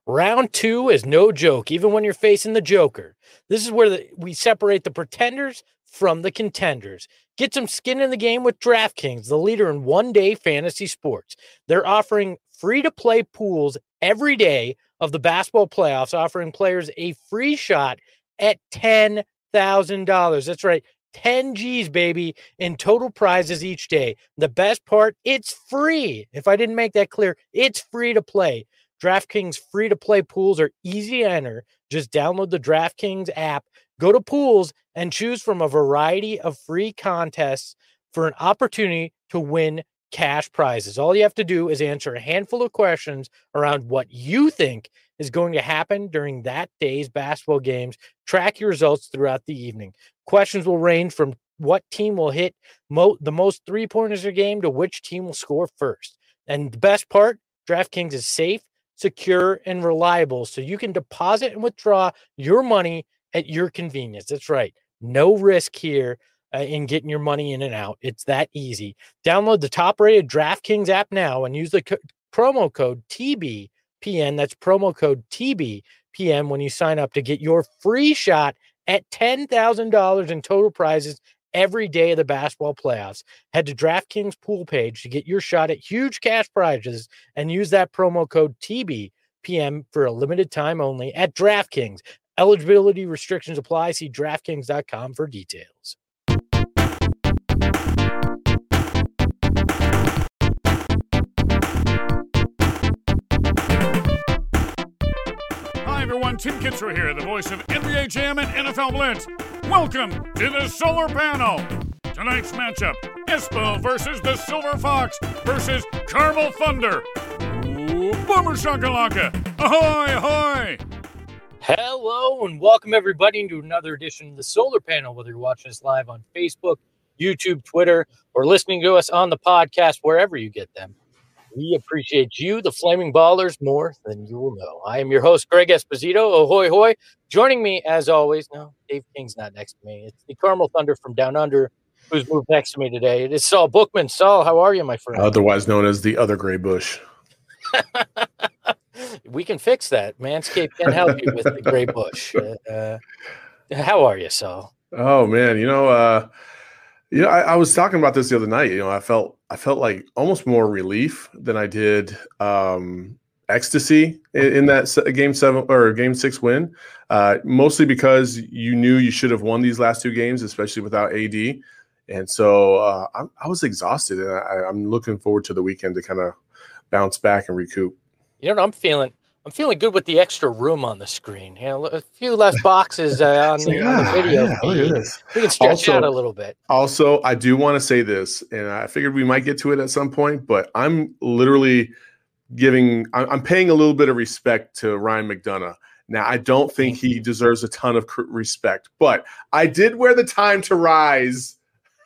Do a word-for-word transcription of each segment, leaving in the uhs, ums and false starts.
Round two is no joke, even when you're facing the Joker. This is where the, we separate the pretenders from the contenders. Get some skin in the game with DraftKings, the leader in one-day fantasy sports. They're offering free-to-play pools every day of the basketball playoffs, offering players a free shot at ten thousand dollars. That's right, ten G's, baby, in total prizes each day. The best part, it's free. If I didn't make that clear, it's free to play. DraftKings free-to-play pools are easy to enter. Just download the DraftKings app, go to pools, and choose from a variety of free contests for an opportunity to win cash prizes. All you have to do is answer a handful of questions around what you think is going to happen during that day's basketball games. Track your results throughout the evening. Questions will range from what team will hit mo- the most three-pointers a game to which team will score first. And the best part, DraftKings is safe, secure, and reliable, so you can deposit and withdraw your money at your convenience. That's right. No risk here uh, in getting your money in and out. It's that easy. Download the top-rated DraftKings app now and use the co- promo code T B P N. That's promo code T B P N when you sign up to get your free shot at ten thousand dollars in total prizes every day of the basketball playoffs. Head to DraftKings pool page to get your shot at huge cash prizes and use that promo code T B P M for a limited time only at DraftKings. Eligibility restrictions apply. See DraftKings dot com for details. Hi, everyone. Tim Kitzrow here, the voice of N B A Jam and N F L Blitz. Welcome to the Solar Panel. Tonight's matchup, Espo versus the Silver Fox versus Carmel Thunder. Ooh, Boomer Shakalaka. Ahoy, ahoy. Hello and welcome everybody to another edition of the Solar Panel, whether you're watching us live on Facebook, YouTube, Twitter, or listening to us on the podcast, wherever you get them. We appreciate you, the Flaming Ballers, more than you will know. I am your host, Greg Esposito. Ahoy, hoy. Joining me, as always, no, Dave King's not next to me. It's the Carmel Thunder from Down Under who's moved next to me today. It is Saul Bookman. Saul, how are you, my friend? Otherwise known as the other gray bush. We can fix that. Manscaped can help you with the gray bush. Uh, how are you, Saul? Oh man, you know, uh, you know, I, I was talking about this the other night. You know, I felt I felt like almost more relief than I did um, ecstasy in, in that se- game seven or game six win. Uh, mostly because you knew you should have won these last two games, especially without A D. And so uh, I, I was exhausted, and I, I'm looking forward to the weekend to kind of bounce back and recoup. You know what I'm feeling? I'm feeling good with the extra room on the screen. You know, a few less boxes uh, on, the, on the video yeah, feed. look at this. We can stretch Also- out a little bit. Also, I do want to say this, and I figured we might get to it at some point, but I'm literally giving, I'm I'm paying a little bit of respect to Ryan McDonough. Now, I don't think he deserves a ton of cr- respect, but I did wear the Time to Rise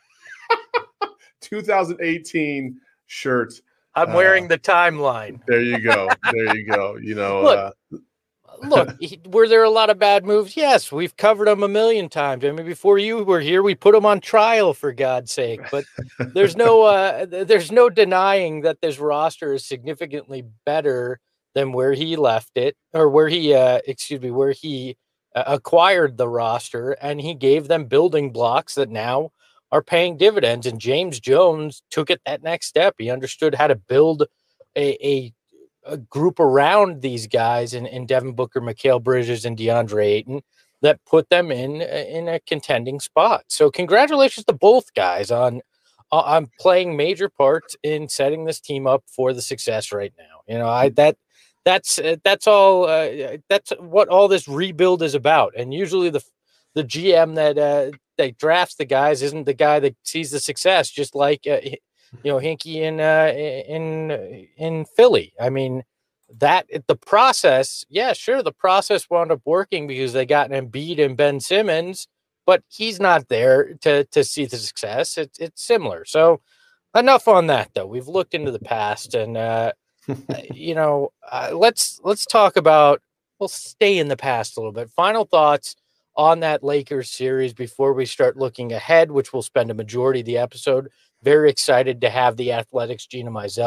twenty eighteen shirt. I'm Uh, wearing the timeline. There you go. There you go. You know, Look, uh, Look, he- were there a lot of bad moves? Yes, we've covered them a million times. I mean, before you were here, we put them on trial, for God's sake. But there's no, uh, th- there's no denying that this roster is significantly better than where he left it, or where he, uh, excuse me, where he uh, acquired the roster, and he gave them building blocks that now are paying dividends. And James Jones took it that next step. He understood how to build a, a a group around these guys in, in Devin Booker, Mikal Bridges, and DeAndre Ayton that put them in in a contending spot. So congratulations to both guys on on playing major parts in setting this team up for the success right now. You know, I that that's uh, that's all uh, that's what all this rebuild is about. And usually the the G M that uh, that drafts the guys isn't the guy that sees the success, just like uh, you know, Hinkie in uh, in in Philly. I mean, that the process, yeah, sure, the process wound up working because they got an Embiid and Ben Simmons, but he's not there to to see the success. It's it's similar. So enough on that, though. We've looked into the past, and uh, you know, uh, let's let's talk about. We'll stay in the past a little bit. Final thoughts on that Lakers series before we start looking ahead, which we'll spend a majority of the episode. Very excited to have the Athletics' Gina Mizell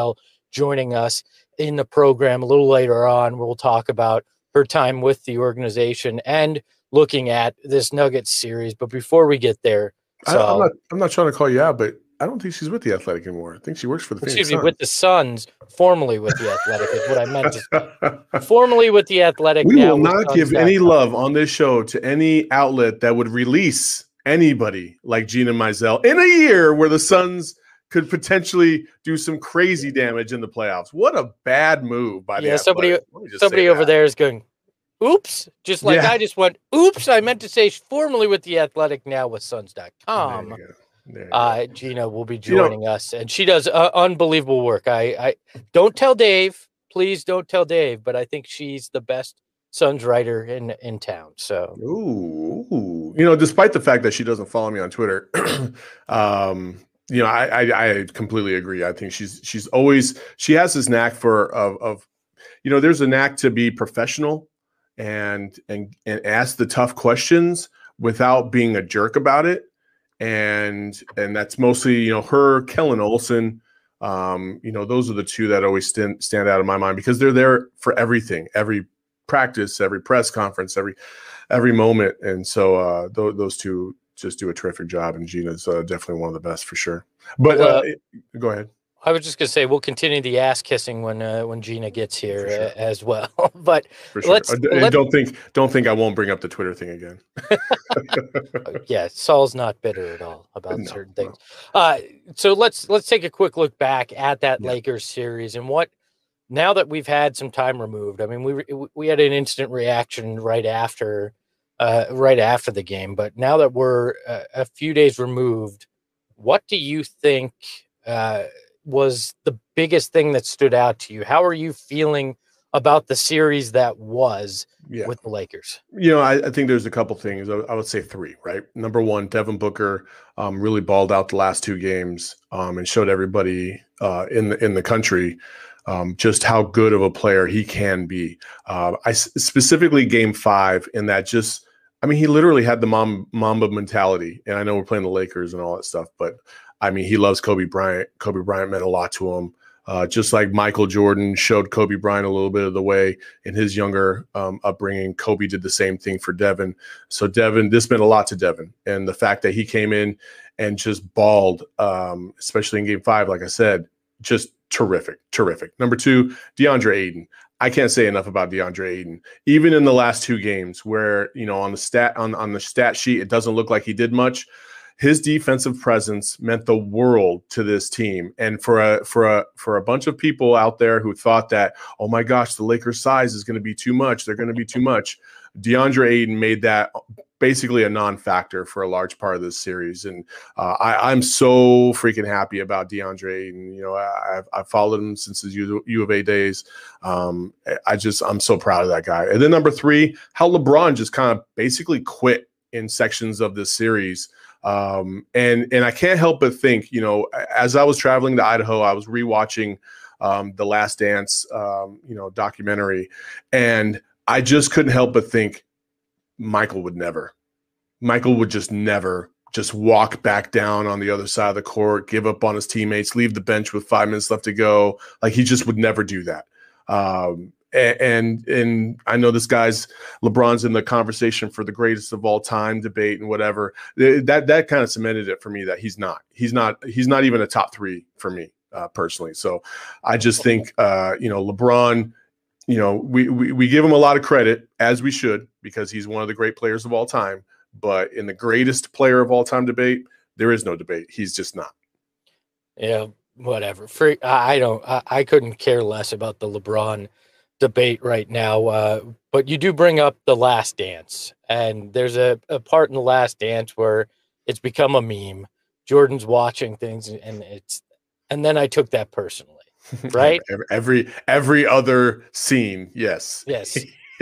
joining us in the program a little later on. We'll talk about her time with the organization and looking at this Nuggets series. But before we get there, I, so I'm not I'm not trying to call you out, but I don't think she's with the Athletic anymore. I think she works for the Phoenix excuse me, Suns. with the Suns, formerly with the Athletic is what I meant to formerly with the Athletic. We now will with not Suns give dot any com. love on this show to any outlet that would release anybody like Gina Mizell in a year where the Suns could potentially do some crazy damage in the playoffs. What a bad move by the Yeah, somebody Athletic. Let me just somebody say over that. there is going, oops, just like Yeah. I just went, oops, I meant to say formerly with the Athletic, now with Suns dot There com. you go. There you Uh, go. Gina will be You know- joining us, and she does uh, unbelievable work. I, I don't tell Dave, please don't tell Dave, but I think she's the best Suns writer in in town. So Ooh, ooh. You know, despite the fact that she doesn't follow me on Twitter, um, you know, I, I I completely agree. I think she's she's always she has this knack for of of you know, there's a knack to be professional and and and ask the tough questions without being a jerk about it. And and that's mostly, you know, her, Kellen Olson. Um, you know, those are the two that always stand stand out in my mind because they're there for everything, every practice, every press conference, every every moment. And so uh, th- those two just do a terrific job. And Gina's uh, definitely one of the best for sure. But Well, uh, go ahead. I was just gonna say we'll continue the ass kissing when uh, when Gina gets here For sure. uh, as well. But For sure. let's, Uh, and let's don't think don't think I won't bring up the Twitter thing again. yeah, Saul's not bitter at all about No, certain things. Uh, so let's let's take a quick look back at that Yeah. Lakers series and what. Now that we've had some time removed, I mean, we we had an instant reaction right after, uh, right after the game. But now that we're a, a few days removed, what do you think uh, was the biggest thing that stood out to you? How are you feeling about the series that was Yeah. with the Lakers? You know, I, I think there's a couple things. I, I would say three, right? Number one, Devin Booker um, really balled out the last two games um, and showed everybody uh, in the in the country um, just how good of a player he can be. Uh, I specifically game five in that just, I mean, he literally had the mom, Mamba mentality. And I know we're playing the Lakers and all that stuff, but I mean, he loves Kobe Bryant. Kobe Bryant meant a lot to him. Uh, just like Michael Jordan showed Kobe Bryant a little bit of the way in his younger um, upbringing, Kobe did the same thing for Devin. So Devin, this meant a lot to Devin. And the fact that he came in and just balled, um, especially in game five, like I said, just terrific, terrific. Number two, DeAndre Ayton. I can't say enough about DeAndre Ayton. Even in the last two games where, you know, on the stat on, on the stat sheet, it doesn't look like he did much. His defensive presence meant the world to this team. And for a for a for a bunch of people out there who thought that, oh my gosh, the Lakers' size is going to be too much. They're going to be too much. DeAndre Ayton made that basically a non-factor for a large part of this series. And uh, I, I'm so freaking happy about DeAndre Ayton. You know, I, I've, I've followed him since his U, U of A days. Um, I just, I'm so proud of that guy. And then number three, how LeBron just kind of basically quit in sections of this series. Um, and, and I can't help but think, you know, as I was traveling to Idaho, I was rewatching um, the Last Dance, um, you know, documentary, and I just couldn't help but think Michael would never, Michael would just never just walk back down on the other side of the court, give up on his teammates, leave the bench with five minutes left to go. Like he just would never do that. Um, And and I know this guy's LeBron's in the conversation for the greatest of all time debate and whatever. That that kind of cemented it for me that he's not. He's not. He's not even a top three for me uh, personally. So I just think uh, you know LeBron. You know we, we we give him a lot of credit, as we should, because he's one of the great players of all time. But in the greatest player of all time debate, there is no debate. He's just not. Yeah, whatever. For I don't. I, I couldn't care less about the LeBron debate right now, uh, but you do bring up the Last Dance, and there's a, a part in the Last Dance where it's become a meme. Jordan's watching things, and it's, and then I took that personally, right? every, every every other scene, yes, Yes.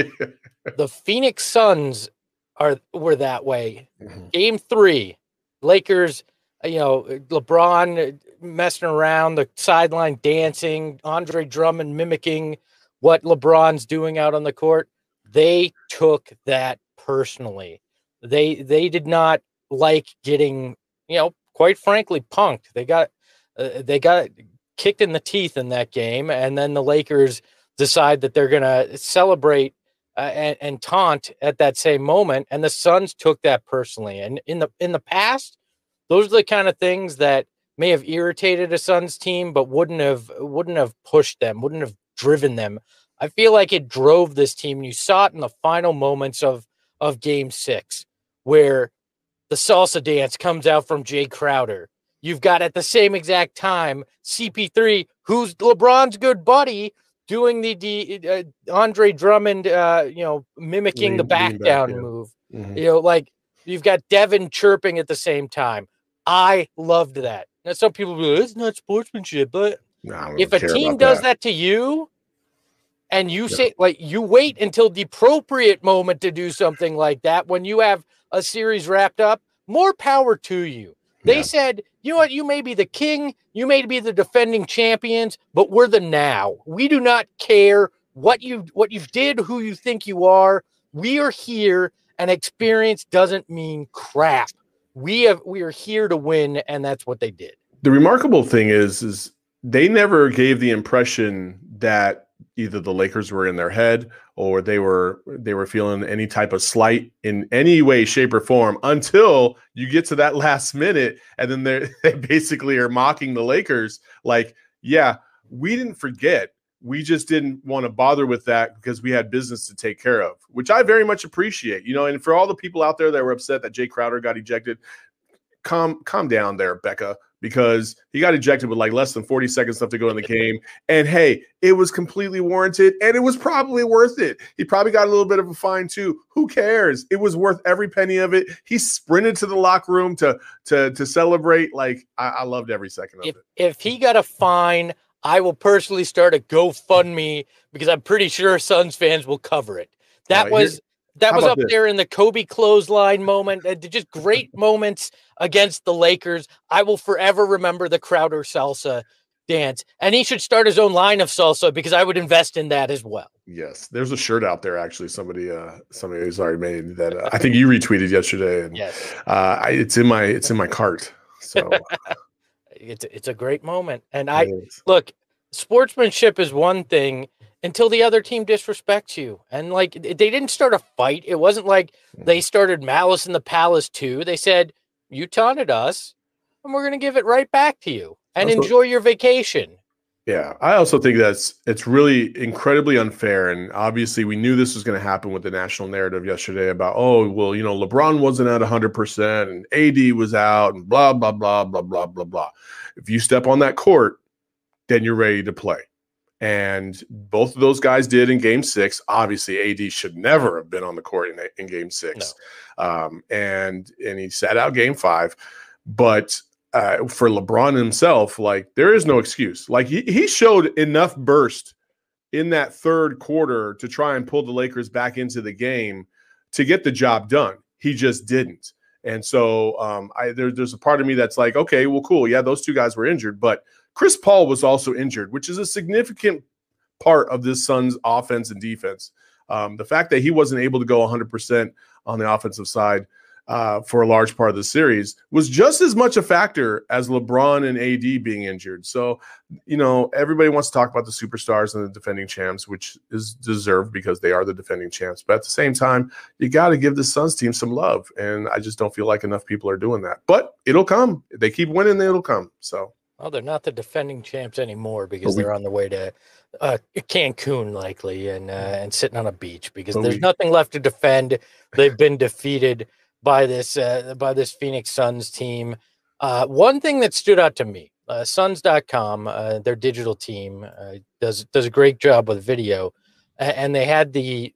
The Phoenix Suns are were that way. Mm-hmm. Game three, Lakers. You know, LeBron messing around the sideline, dancing. Andre Drummond mimicking what LeBron's doing out on the court. They took that personally. They they did not like getting, you know, quite frankly, punked. They got uh, they got kicked in the teeth in that game, and then the Lakers decide that they're going to celebrate uh, and, and taunt at that same moment, and the Suns took that personally. And in the in the past, those are the kind of things that may have irritated a Suns team, but wouldn't have wouldn't have pushed them, wouldn't have driven them. I feel like it drove this team. And you saw it in the final moments of of Game Six, where the salsa dance comes out from Jay Crowder. You've got at the same exact time C P three, who's LeBron's good buddy, doing the, the uh, Andre Drummond, uh, you know, mimicking lean, the back down back, yeah. move. Mm-hmm. You know, like you've got Devin chirping at the same time. I loved that. Now, some people be like, it's not sportsmanship, but no, if a team does that. that to you, and you yeah. say, like, you wait until the appropriate moment to do something like that when you have a series wrapped up, more power to you. They yeah. said, you know what, you may be the king, you may be the defending champions, but we're the now. We do not care what you what you did, who you think you are. We are here, and experience doesn't mean crap. We have we are here to win, and that's what they did. The remarkable thing is, is they never gave the impression that either the Lakers were in their head or they were they were feeling any type of slight in any way, shape, or form until you get to that last minute, and then they basically are mocking the Lakers like, yeah, we didn't forget. We just didn't want to bother with that because we had business to take care of, which I very much appreciate. You know, and for all the people out there that were upset that Jay Crowder got ejected, calm calm down there, Becca, because he got ejected with like less than forty seconds left to go in the game. And hey, it was completely warranted, and it was probably worth it. He probably got a little bit of a fine too. Who cares? It was worth every penny of it. He sprinted to the locker room to to to celebrate. Like I, I loved every second of if, it. If he got a fine, I will personally start a GoFundMe because I'm pretty sure Suns fans will cover it. That uh, was that was up this? there in the Kobe clothesline moment. Uh, just great moments against the Lakers. I will forever remember the Crowder salsa dance, and he should start his own line of salsa because I would invest in that as well. Yes, there's a shirt out there actually. Somebody, uh, somebody has already made that. Uh, I think you retweeted yesterday, and yes, uh, I, it's in my it's in my cart. So. It's it's a great moment. And I look, sportsmanship is one thing until the other team disrespects you. And like they didn't start a fight. It wasn't like they started Malice in the Palace too. They said, you taunted us and we're gonna give it right back to you and also, enjoy your vacation. Yeah, I also think that's it's really incredibly unfair. And obviously we knew this was going to happen with the national narrative yesterday about, oh, well, you know, LeBron wasn't at one hundred percent and A D was out and blah, blah, blah, blah, blah, blah, blah. If you step on that court, then you're ready to play. And both of those guys did in game six. Obviously, A D should never have been on the court in, in game six. No. Um, and, and he sat out game five. But Uh, for LeBron himself, like there is no excuse. Like he, he showed enough burst in that third quarter to try and pull the Lakers back into the game to get the job done. He just didn't. And so um, I, there, there's a part of me that's like, okay, well, cool. Yeah, those two guys were injured, but Chris Paul was also injured, which is a significant part of this Suns offense and defense. Um, the fact that he wasn't able to go one hundred percent on the offensive side Uh, for a large part of the series was just as much a factor as LeBron and A D being injured. So, you know, everybody wants to talk about the superstars and the defending champs, which is deserved because they are the defending champs. But at the same time, you got to give the Suns team some love. And I just don't feel like enough people are doing that. But it'll come. If they keep winning, it'll come. So, well, they're not the defending champs anymore because we, they're on the way to uh, Cancun likely and uh, and sitting on a beach because there's we, nothing left to defend. They've been defeated by this uh, by this Phoenix Suns team. Uh, one thing that stood out to me, uh, Suns dot com, uh, their digital team, uh, does does a great job with video, and they had the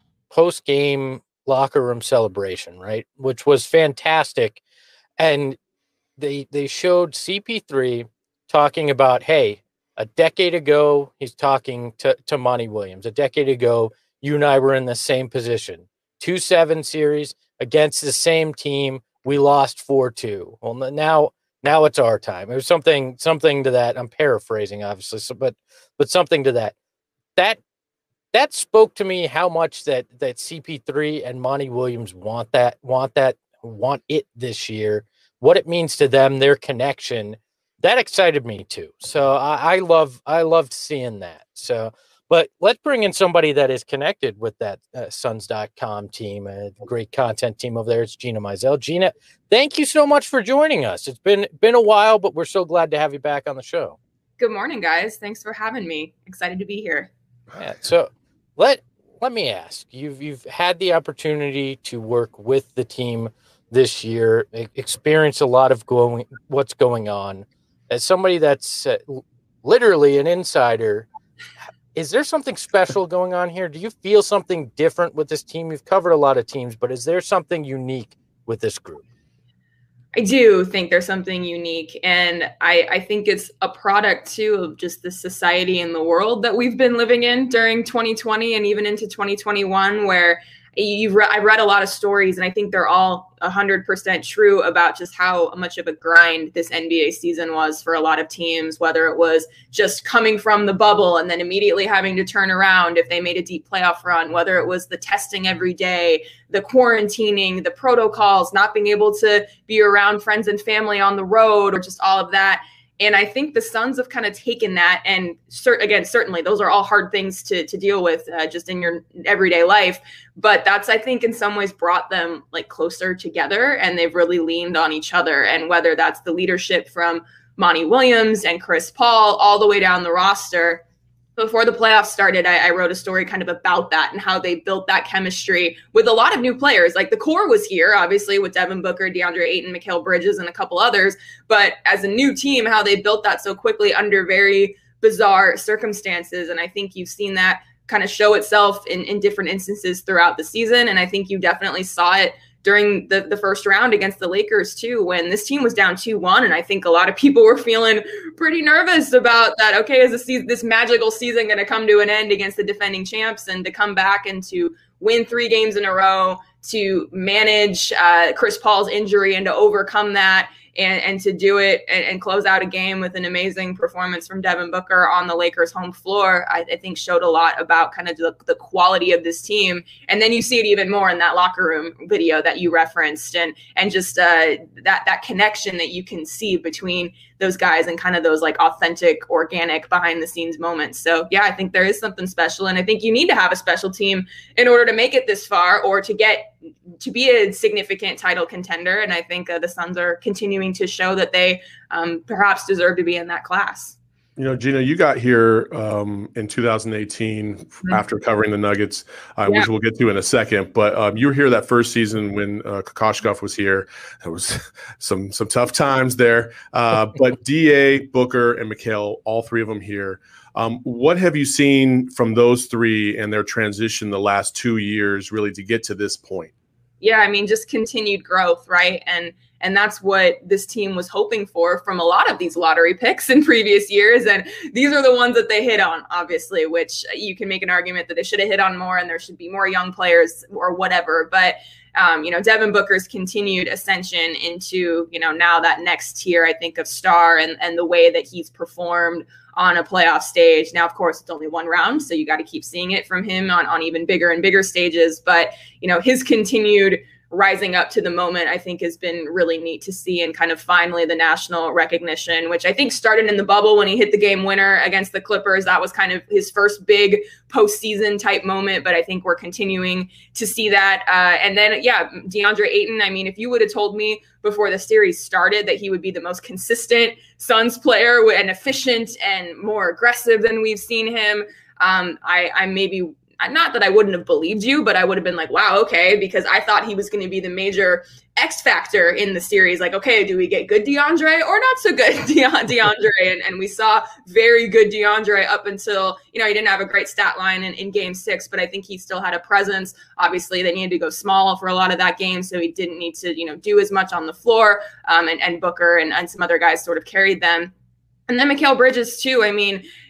post-game locker room celebration, right, which was fantastic. And they they showed C P three talking about, hey, a decade ago, he's talking to, to Monty Williams. A decade ago, you and I were in the same position. two seven series against the same team. We lost four two. Well, now now it's our time. It was something something to that. I'm paraphrasing, obviously, so, but but something to that. That that spoke to me how much that that C P three and Monty Williams want that want that want it this year. What it means to them, their connection. that excited me too. So I, I love, I loved seeing that. So, but let's bring in somebody that is connected with that uh, Suns dot com team, a great content team over there. It's Gina Mizell. Gina, thank you so much for joining us. It's been, been a while, but we're so glad to have you back on the show. Good morning, guys. Thanks for having me. Excited to be here. Yeah, so let, let me ask, you've, you've had the opportunity to work with the team this year, experience a lot of going, what's going on. As somebody that's uh, literally an insider, is there something special going on here? Do you feel something different with this team? You've covered a lot of teams, but is there something unique with this group? I do think there's something unique. And I, I think it's a product, too, of just the society and the world that we've been living in during twenty twenty and even into twenty twenty-one, where You've re- I've read a lot of stories, and I think they're all one hundred percent true about just how much of a grind this N B A season was for a lot of teams, whether it was just coming from the bubble and then immediately having to turn around if they made a deep playoff run, whether it was the testing every day, the quarantining, the protocols, not being able to be around friends and family on the road, or just all of that. And I think the Suns have kind of taken that, and cert- again, certainly those are all hard things to to deal with uh, just in your everyday life. But that's, I think, in some ways brought them like closer together, and they've really leaned on each other. And whether that's the leadership from Monty Williams and Chris Paul all the way down the roster. Before the playoffs started, I, I wrote a story kind of about that and how they built that chemistry with a lot of new players. Like the core was here, obviously, with Devin Booker, DeAndre Ayton, Mikal Bridges, and a couple others. But as a new team, how they built that so quickly under very bizarre circumstances. And I think you've seen that kind of show itself in, in different instances throughout the season. And I think you definitely saw it during the, the first round against the Lakers, too, when this team was down two one. And I think a lot of people were feeling pretty nervous about that. Okay, is this, season, this magical season going to come to an end against the defending champs, and to come back and to win three games in a row, to manage uh, Chris Paul's injury and to overcome that, and, and to do it and, and close out a game with an amazing performance from Devin Booker on the Lakers' home floor, I, I think showed a lot about kind of the, the quality of this team. And then you see it even more in that locker room video that you referenced, and and just uh, that that connection that you can see between those guys and kind of those like authentic, organic, behind the scenes moments. So yeah, I think there is something special, and I think you need to have a special team in order to make it this far, or to get to be a significant title contender. And I think uh, the Suns are continuing to show that they um, perhaps deserve to be in that class. You know, Gina, you got here um, in two thousand eighteen mm-hmm. after covering the Nuggets, uh, yeah. which we'll get to in a second. But um, you were here that first season when uh, Kokoshkov was here. There was some some tough times there. Uh, but D A, Booker, and Mikal, all three of them here. Um, what have you seen from those three and their transition the last two years really to get to this point? Yeah, I mean, just continued growth, right? And and that's what this team was hoping for from a lot of these lottery picks in previous years. And these are the ones that they hit on, obviously, which you can make an argument that they should have hit on more and there should be more young players or whatever. But, um, you know, Devin Booker's continued ascension into, you know, now that next tier, I think, of star, and, and the way that he's performed on a playoff stage. Now, of course, it's only one round, so you got to keep seeing it from him on, on even bigger and bigger stages. But, you know, his continued rising up to the moment, I think, has been really neat to see, and kind of finally the national recognition, which I think started in the bubble when he hit the game winner against the Clippers. That was kind of his first big postseason type moment, but I think we're continuing to see that. Uh, and then, yeah, DeAndre Ayton, I mean, if you would have told me before the series started that he would be the most consistent Suns player and efficient and more aggressive than we've seen him, um, I, I maybe not that I wouldn't have believed you, but I would have been like, wow, okay, because I thought he was going to be the major X factor in the series. Like, okay, do we get good DeAndre or not so good De- DeAndre? And, and we saw very good DeAndre up until, you know, he didn't have a great stat line in, in game six, but I think he still had a presence. Obviously, they needed to go small for a lot of that game, so he didn't need to, you know, do as much on the floor. Um, and, and Booker and, and some other guys sort of carried them. And then Mikal Bridges, too. I mean,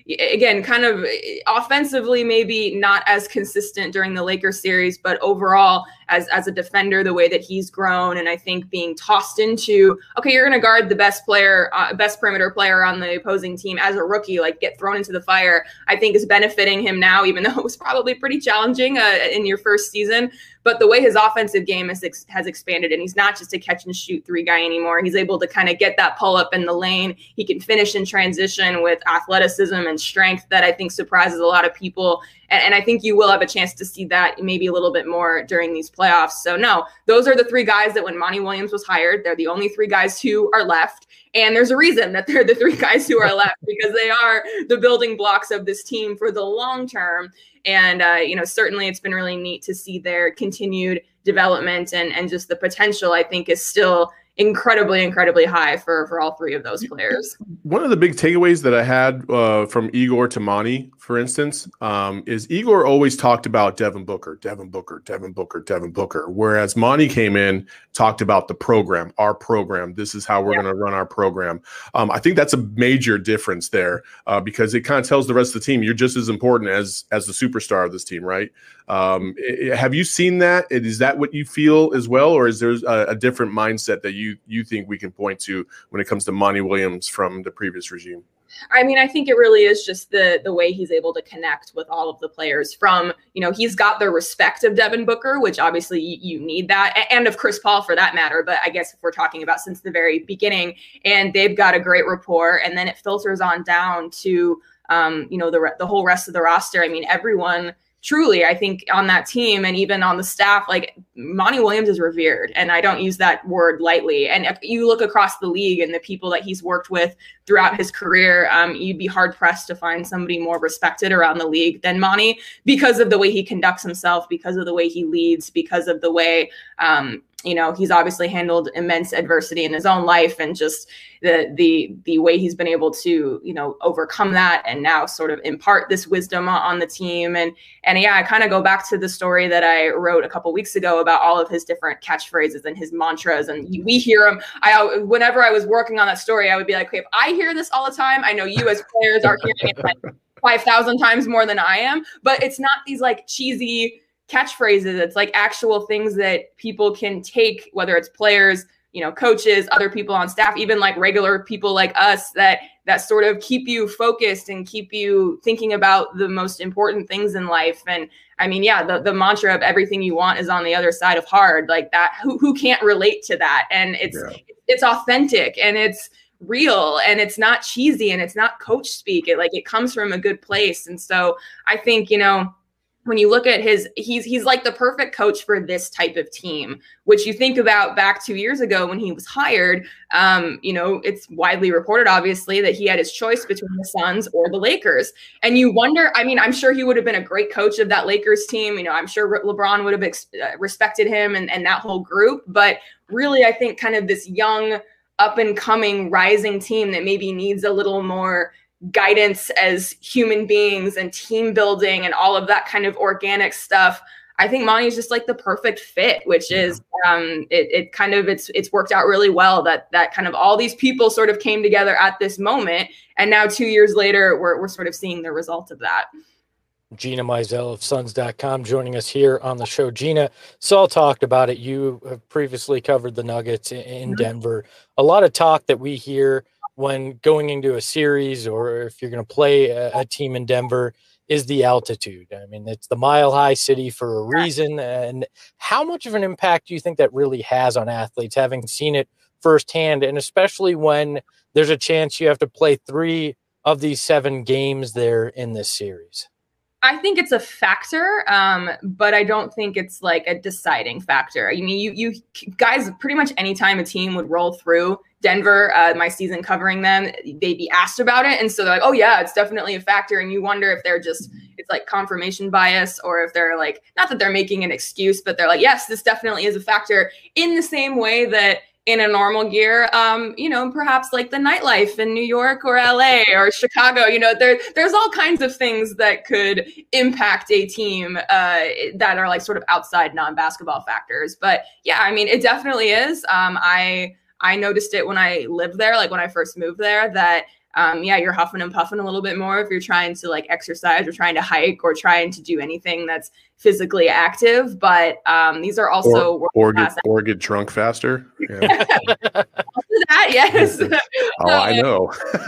again, kind of offensively, maybe not as consistent during the Lakers series, but overall as, as a defender, the way that he's grown. And I think being tossed into, okay, you're going to guard the best player, uh, best perimeter player on the opposing team as a rookie, like get thrown into the fire, I think is benefiting him now, even though it was probably pretty challenging uh, in your first season. But the way his offensive game has, ex- has expanded, and he's not just a catch and shoot three guy anymore. He's able to kind of get that pull up in the lane. He can finish in transition with athleticism and strength that I think surprises a lot of people. And, and I think you will have a chance to see that maybe a little bit more during these playoffs. So no, those are the three guys that when Monty Williams was hired, they're the only three guys who are left. And there's a reason that they're the three guys who are left, because they are the building blocks of this team for the long term. And, uh, you know, certainly it's been really neat to see their continued development, and, and just the potential, I think, is still incredibly, incredibly high for, for all three of those players. One of the big takeaways that I had uh, from Igor to Monty, for instance, um, is Igor always talked about Devin Booker, Devin Booker, Devin Booker, Devin Booker, whereas Monty came in, talked about the program, our program. This is how we're yeah. going to run our program. Um, I think that's a major difference there uh, because it kind of tells the rest of the team you're just as important as as the superstar of this team, right? Um, it, have you seen that? Is that what you feel as well, or is there a, a different mindset that you you think we can point to when it comes to Monty Williams from the previous regime? I mean, I think it really is just the the way he's able to connect with all of the players. From, you know, he's got the respect of Devin Booker, which obviously you, you need that, and of Chris Paul for that matter. But I guess if we're talking about since the very beginning, and they've got a great rapport, and then it filters on down to, um, you know, the the whole rest of the roster. I mean, everyone. Truly, I think on that team and even on the staff, like Monty Williams is revered, and I don't use that word lightly. And if you look across the league and the people that he's worked with throughout his career, um, you'd be hard pressed to find somebody more respected around the league than Monty, because of the way he conducts himself, because of the way he leads, because of the way, um, you know, he's obviously handled immense adversity in his own life, and just the the the way he's been able to, you know, overcome that and now sort of impart this wisdom on the team. And and yeah, I kind of go back to the story that I wrote a couple weeks ago about all of his different catchphrases and his mantras, and we hear them. I whenever I was working on that story, I would be like, okay, if I hear this all the time, I know you as players are hearing it like five thousand times more than I am. But it's not these like cheesy catchphrases. It's like actual things that people can take, whether it's players, you know, coaches, other people on staff, even like regular people like us, that that sort of keep you focused and keep you thinking about the most important things in life. And I mean, yeah, the, the mantra of everything you want is on the other side of hard, like that. Who who can't relate to that? And it's yeah. it's authentic, and it's real, and it's not cheesy, and it's not coach speak. It like it comes from a good place. And so I think, you know, when you look at his, he's he's like the perfect coach for this type of team, which you think about back two years ago when he was hired. Um, you know, it's widely reported, obviously, that he had his choice between the Suns or the Lakers. And you wonder, I mean, I'm sure he would have been a great coach of that Lakers team. You know, I'm sure LeBron would have ex- respected him and, and that whole group. But really, I think kind of this young, up and coming, rising team that maybe needs a little more guidance as human beings and team building and all of that kind of organic stuff. I think Monty is just like the perfect fit, which is um, it, it kind of it's it's worked out really well that that kind of all these people sort of came together at this moment. And now two years later, we're we're sort of seeing the result of that. Gina Mizell of Suns dot com joining us here on the show. Gina, Saul talked about it. You have previously covered the Nuggets in, in mm-hmm. Denver. A lot of talk that we hear when going into a series, or if you're going to play a, a team in Denver, is the altitude. I mean, it's the Mile High City for a reason. And how much of an impact do you think that really has on athletes, having seen it firsthand, and especially when there's a chance you have to play three of these seven games there in this series? I think it's a factor, um, but I don't think it's like a deciding factor. I mean, you you guys, pretty much anytime a team would roll through Denver, uh, my season covering them, they'd be asked about it. And so they're like, oh yeah, it's definitely a factor. And you wonder if they're just, it's like confirmation bias, or if they're like, not that they're making an excuse, but they're like, yes, this definitely is a factor, in the same way that in a normal year, um, you know, perhaps like the nightlife in New York or L A or Chicago, you know, there, there's all kinds of things that could impact a team uh, that are like sort of outside non-basketball factors. But yeah, I mean, it definitely is. Um, I I noticed it when I lived there, like when I first moved there, that um, yeah, you're huffing and puffing a little bit more if you're trying to like exercise or trying to hike or trying to do anything that's physically active. But um, these are also or, or get or get drunk faster. Yeah. That, yes. Oh, I know.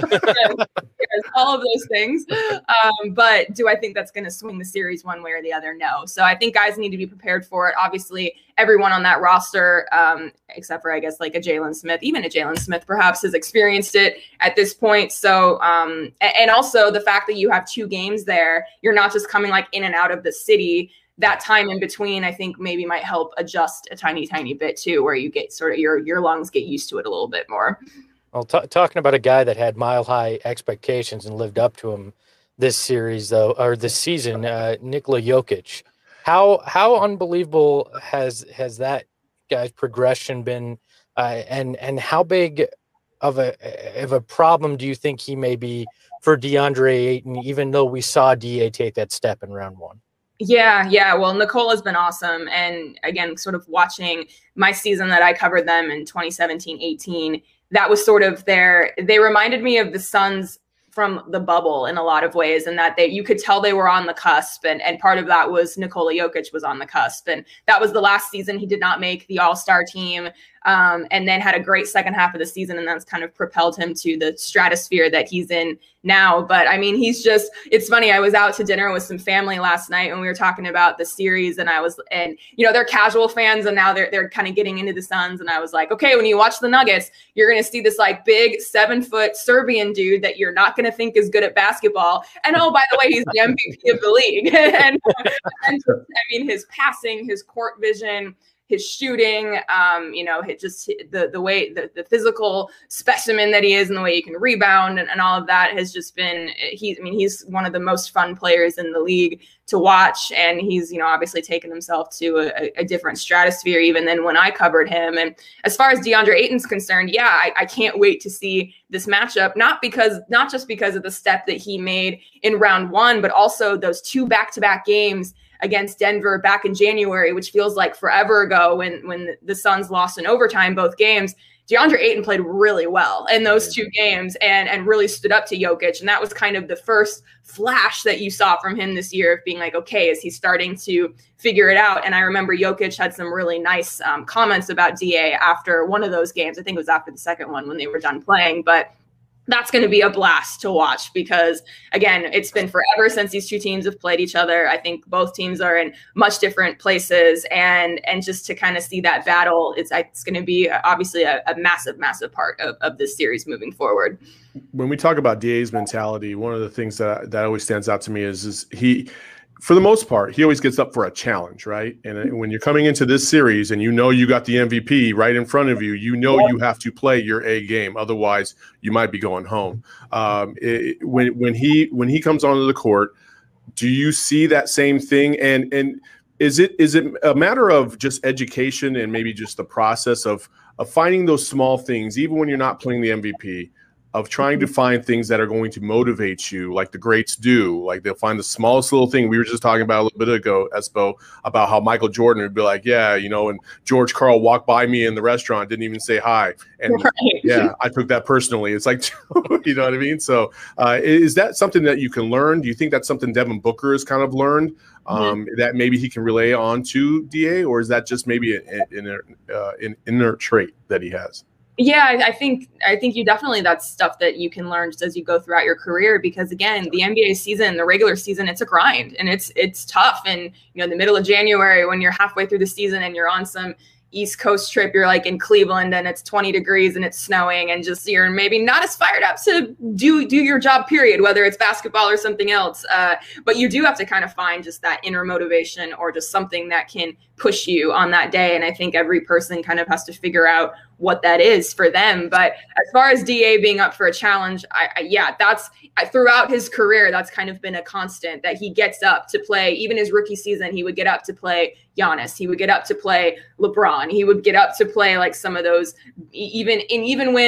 Yes, all of those things. Um, but do I think that's going to swing the series one way or the other? No. So I think guys need to be prepared for it. Obviously, everyone on that roster, um, except for I guess like a Jalen Smith, even a Jalen Smith perhaps has experienced it at this point. So um, and also the fact that you have two games there, you're not just coming like in and out of the city. That time in between, I think maybe might help adjust a tiny, tiny bit too, where you get sort of your your lungs get used to it a little bit more. Well, t- talking about a guy that had mile high expectations and lived up to them this series, though, or this season, uh, Nikola Jokic. How how unbelievable has has that guy's progression been, uh, and and how big of a of a problem do you think he may be for DeAndre Ayton? Even though we saw D A take that step in round one. Yeah, yeah. Well, Nikola's been awesome. And again, sort of watching my season that I covered them in twenty seventeen eighteen, that was sort of their, they reminded me of the Suns from the bubble in a lot of ways, and that they, you could tell they were on the cusp. And, and part of that was Nikola Jokic was on the cusp. And that was the last season he did not make the All-Star team. Um, and then had a great second half of the season, and that's kind of propelled him to the stratosphere that he's in now. But I mean, he's just, it's funny. I was out to dinner with some family last night and we were talking about the series, and I was, and you know, they're casual fans and now they're, they're kind of getting into the Suns. And I was like, okay, when you watch the Nuggets, you're going to see this like big seven foot Serbian dude that you're not going to think is good at basketball. And oh, by the way, he's the M V P of the league. and, and I mean, his passing, his court vision, his shooting, um, you know, his, just the the way, the, the physical specimen that he is, and the way he can rebound, and, and all of that has just been, he, I mean, he's one of the most fun players in the league to watch. And he's, you know, obviously taken himself to a, a different stratosphere even than when I covered him. And as far as DeAndre Ayton's concerned, yeah, I, I can't wait to see this matchup, not because, not just because of the step that he made in round one, but also those two back-to-back games against Denver back in January, which feels like forever ago when, when the Suns lost in overtime, both games. DeAndre Ayton played really well in those two games and, and really stood up to Jokic. And that was kind of the first flash that you saw from him this year of being like, okay, is he starting to figure it out? And I remember Jokic had some really nice um, comments about D A after one of those games. I think it was after the second one when they were done playing, but that's going to be a blast to watch because, again, it's been forever since these two teams have played each other. I think both teams are in much different places, and and just to kind of see that battle, it's it's going to be obviously a, a massive, massive part of, of this series moving forward. When we talk about D A's mentality, one of the things that that always stands out to me is is he, for the most part, he always gets up for a challenge, right? And when you're coming into this series and you know you got the M V P right in front of you, you know you have to play your A game. Otherwise, you might be going home. Um, it, when when he when he comes onto the court, do you see that same thing? And and is it is it a matter of just education and maybe just the process of of finding those small things, even when you're not playing the M V P? Of trying to find things that are going to motivate you, like the greats do. Like they'll find the smallest little thing. We were just talking about a little bit ago, Espo, about how Michael Jordan would be like, yeah, you know, and George Karl walked by me in the restaurant, didn't even say hi. And right. yeah, I took that personally. It's like, you know what I mean? So uh, is that something that you can learn? Do you think that's something Devin Booker has kind of learned um, mm-hmm. that maybe he can relay on to D A, or is that just maybe an, an, uh, an inner trait that he has? Yeah, I think I think you definitely, that's stuff that you can learn just as you go throughout your career, because again, the N B A season, the regular season, it's a grind and it's it's tough. And you know, in the middle of January, when you're halfway through the season and you're on some East Coast trip, you're like in Cleveland and it's twenty degrees and it's snowing and just you're maybe not as fired up to do do your job, period, whether it's basketball or something else. Uh, but you do have to kind of find just that inner motivation or just something that can push you on that day. And I think every person kind of has to figure out what that is for them. But as far as D A being up for a challenge, I, I yeah, that's I, throughout his career, that's kind of been a constant that he gets up to play. Even his rookie season, he would get up to play Giannis. He would get up to play LeBron. He would get up to play like some of those, even and even when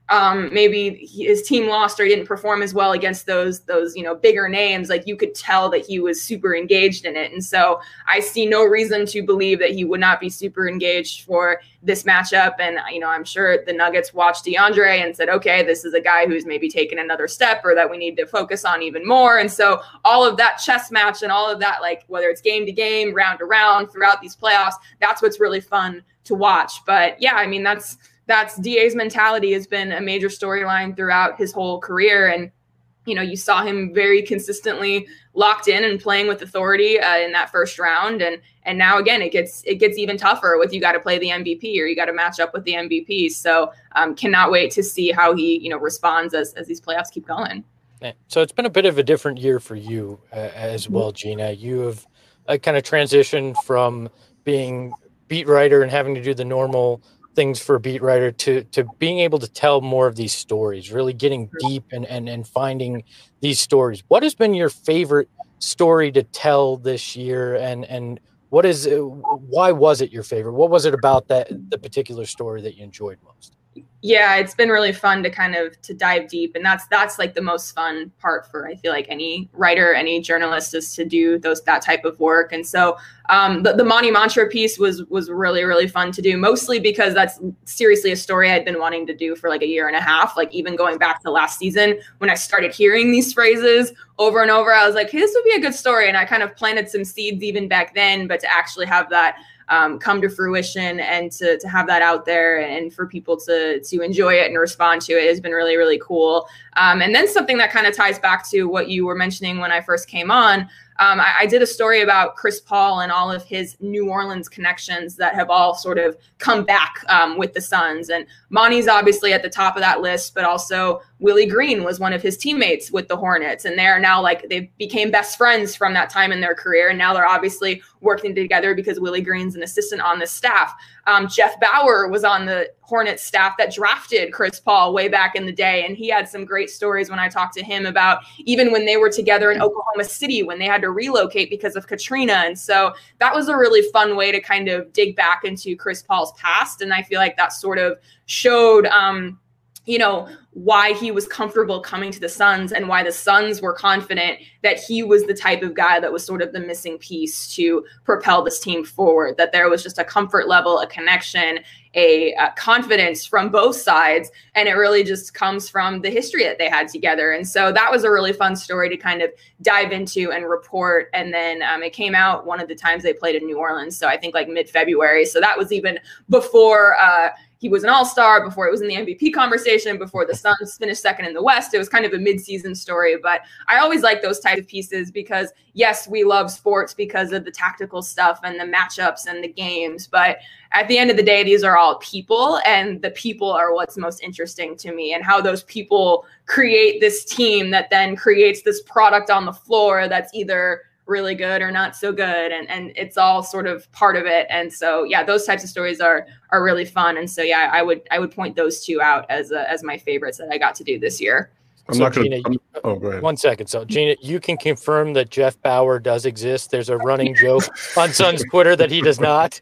um, maybe his team lost or he didn't perform as well against those, those, you know, bigger names, like you could tell that he was super engaged in it. And so I see no reason to believe that he would not be super engaged for this matchup. And, you know, I'm sure the Nuggets watched DeAndre and said, okay, this is a guy who's maybe taken another step or that we need to focus on even more. And so all of that chess match and all of that, like whether it's game to game, round to round throughout these playoffs, that's what's really fun to watch. But yeah, I mean, that's, that's D A's mentality has been a major storyline throughout his whole career. And, you know, you saw him very consistently locked in and playing with authority uh, in that first round. And, and now again, it gets, it gets even tougher with, you got to play the M V P or you got to match up with the M V P. So um, cannot wait to see how he, you know, responds as, as these playoffs keep going. So it's been a bit of a different year for you uh, as well, Gina. You have uh, kind of transitioned from being beat writer and having to do the normal things for a beat writer to to being able to tell more of these stories, really getting deep and and and finding these stories. What has been your favorite story to tell this year, and and what is why was it your favorite? What was it about that the particular story that you enjoyed most? Yeah, it's been really fun to kind of to dive deep, and that's that's like the most fun part for, I feel like, any writer, any journalist, is to do those that type of work. And so um, the, the Monty Mantra piece was was really really fun to do, mostly because that's seriously a story I'd been wanting to do for like a year and a half. Like even going back to last season when I started hearing these phrases over and over, I was like, hey, this would be a good story, and I kind of planted some seeds even back then. But to actually have that Um, come to fruition and to to have that out there and for people to to enjoy it and respond to it has been really, really cool. Um, and then something that kind of ties back to what you were mentioning when I first came on, um, I, I did a story about Chris Paul and all of his New Orleans connections that have all sort of come back um, with the Suns. And Monty's obviously at the top of that list, but also Willie Green was one of his teammates with the Hornets. And they're now like, they became best friends from that time in their career. And now they're obviously working together because Willie Green's an assistant on the staff. Um, Jeff Bauer was on the Hornets staff that drafted Chris Paul way back in the day. And he had some great stories when I talked to him about even when they were together in Oklahoma City, when they had to relocate because of Katrina. And so that was a really fun way to kind of dig back into Chris Paul's past. And I feel like that sort of showed, um, you know, why he was comfortable coming to the Suns and why the Suns were confident that he was the type of guy that was sort of the missing piece to propel this team forward, that there was just a comfort level, a connection, a, a confidence from both sides. And it really just comes from the history that they had together. And so that was a really fun story to kind of dive into and report. And then um, it came out one of the times they played in New Orleans. So I think like mid-February. So that was even before uh, he was an all-star, before it was in the M V P conversation, before the Suns finished second in the West. It was kind of a mid-season story. But I always like those type of pieces because, yes, we love sports because of the tactical stuff and the matchups and the games. But at the end of the day, these are all people, and the people are what's most interesting to me, and how those people create this team that then creates this product on the floor that's either really good or not so good. And, and it's all sort of part of it. And so, yeah, those types of stories are, are really fun. And so, yeah, I would, I would point those two out as, a, as my favorites that I got to do this year. I'm so not going to. Oh, go ahead. One second. So, Gina, you can confirm that Jeff Bauer does exist. There's a running joke on Suns Twitter that he does not.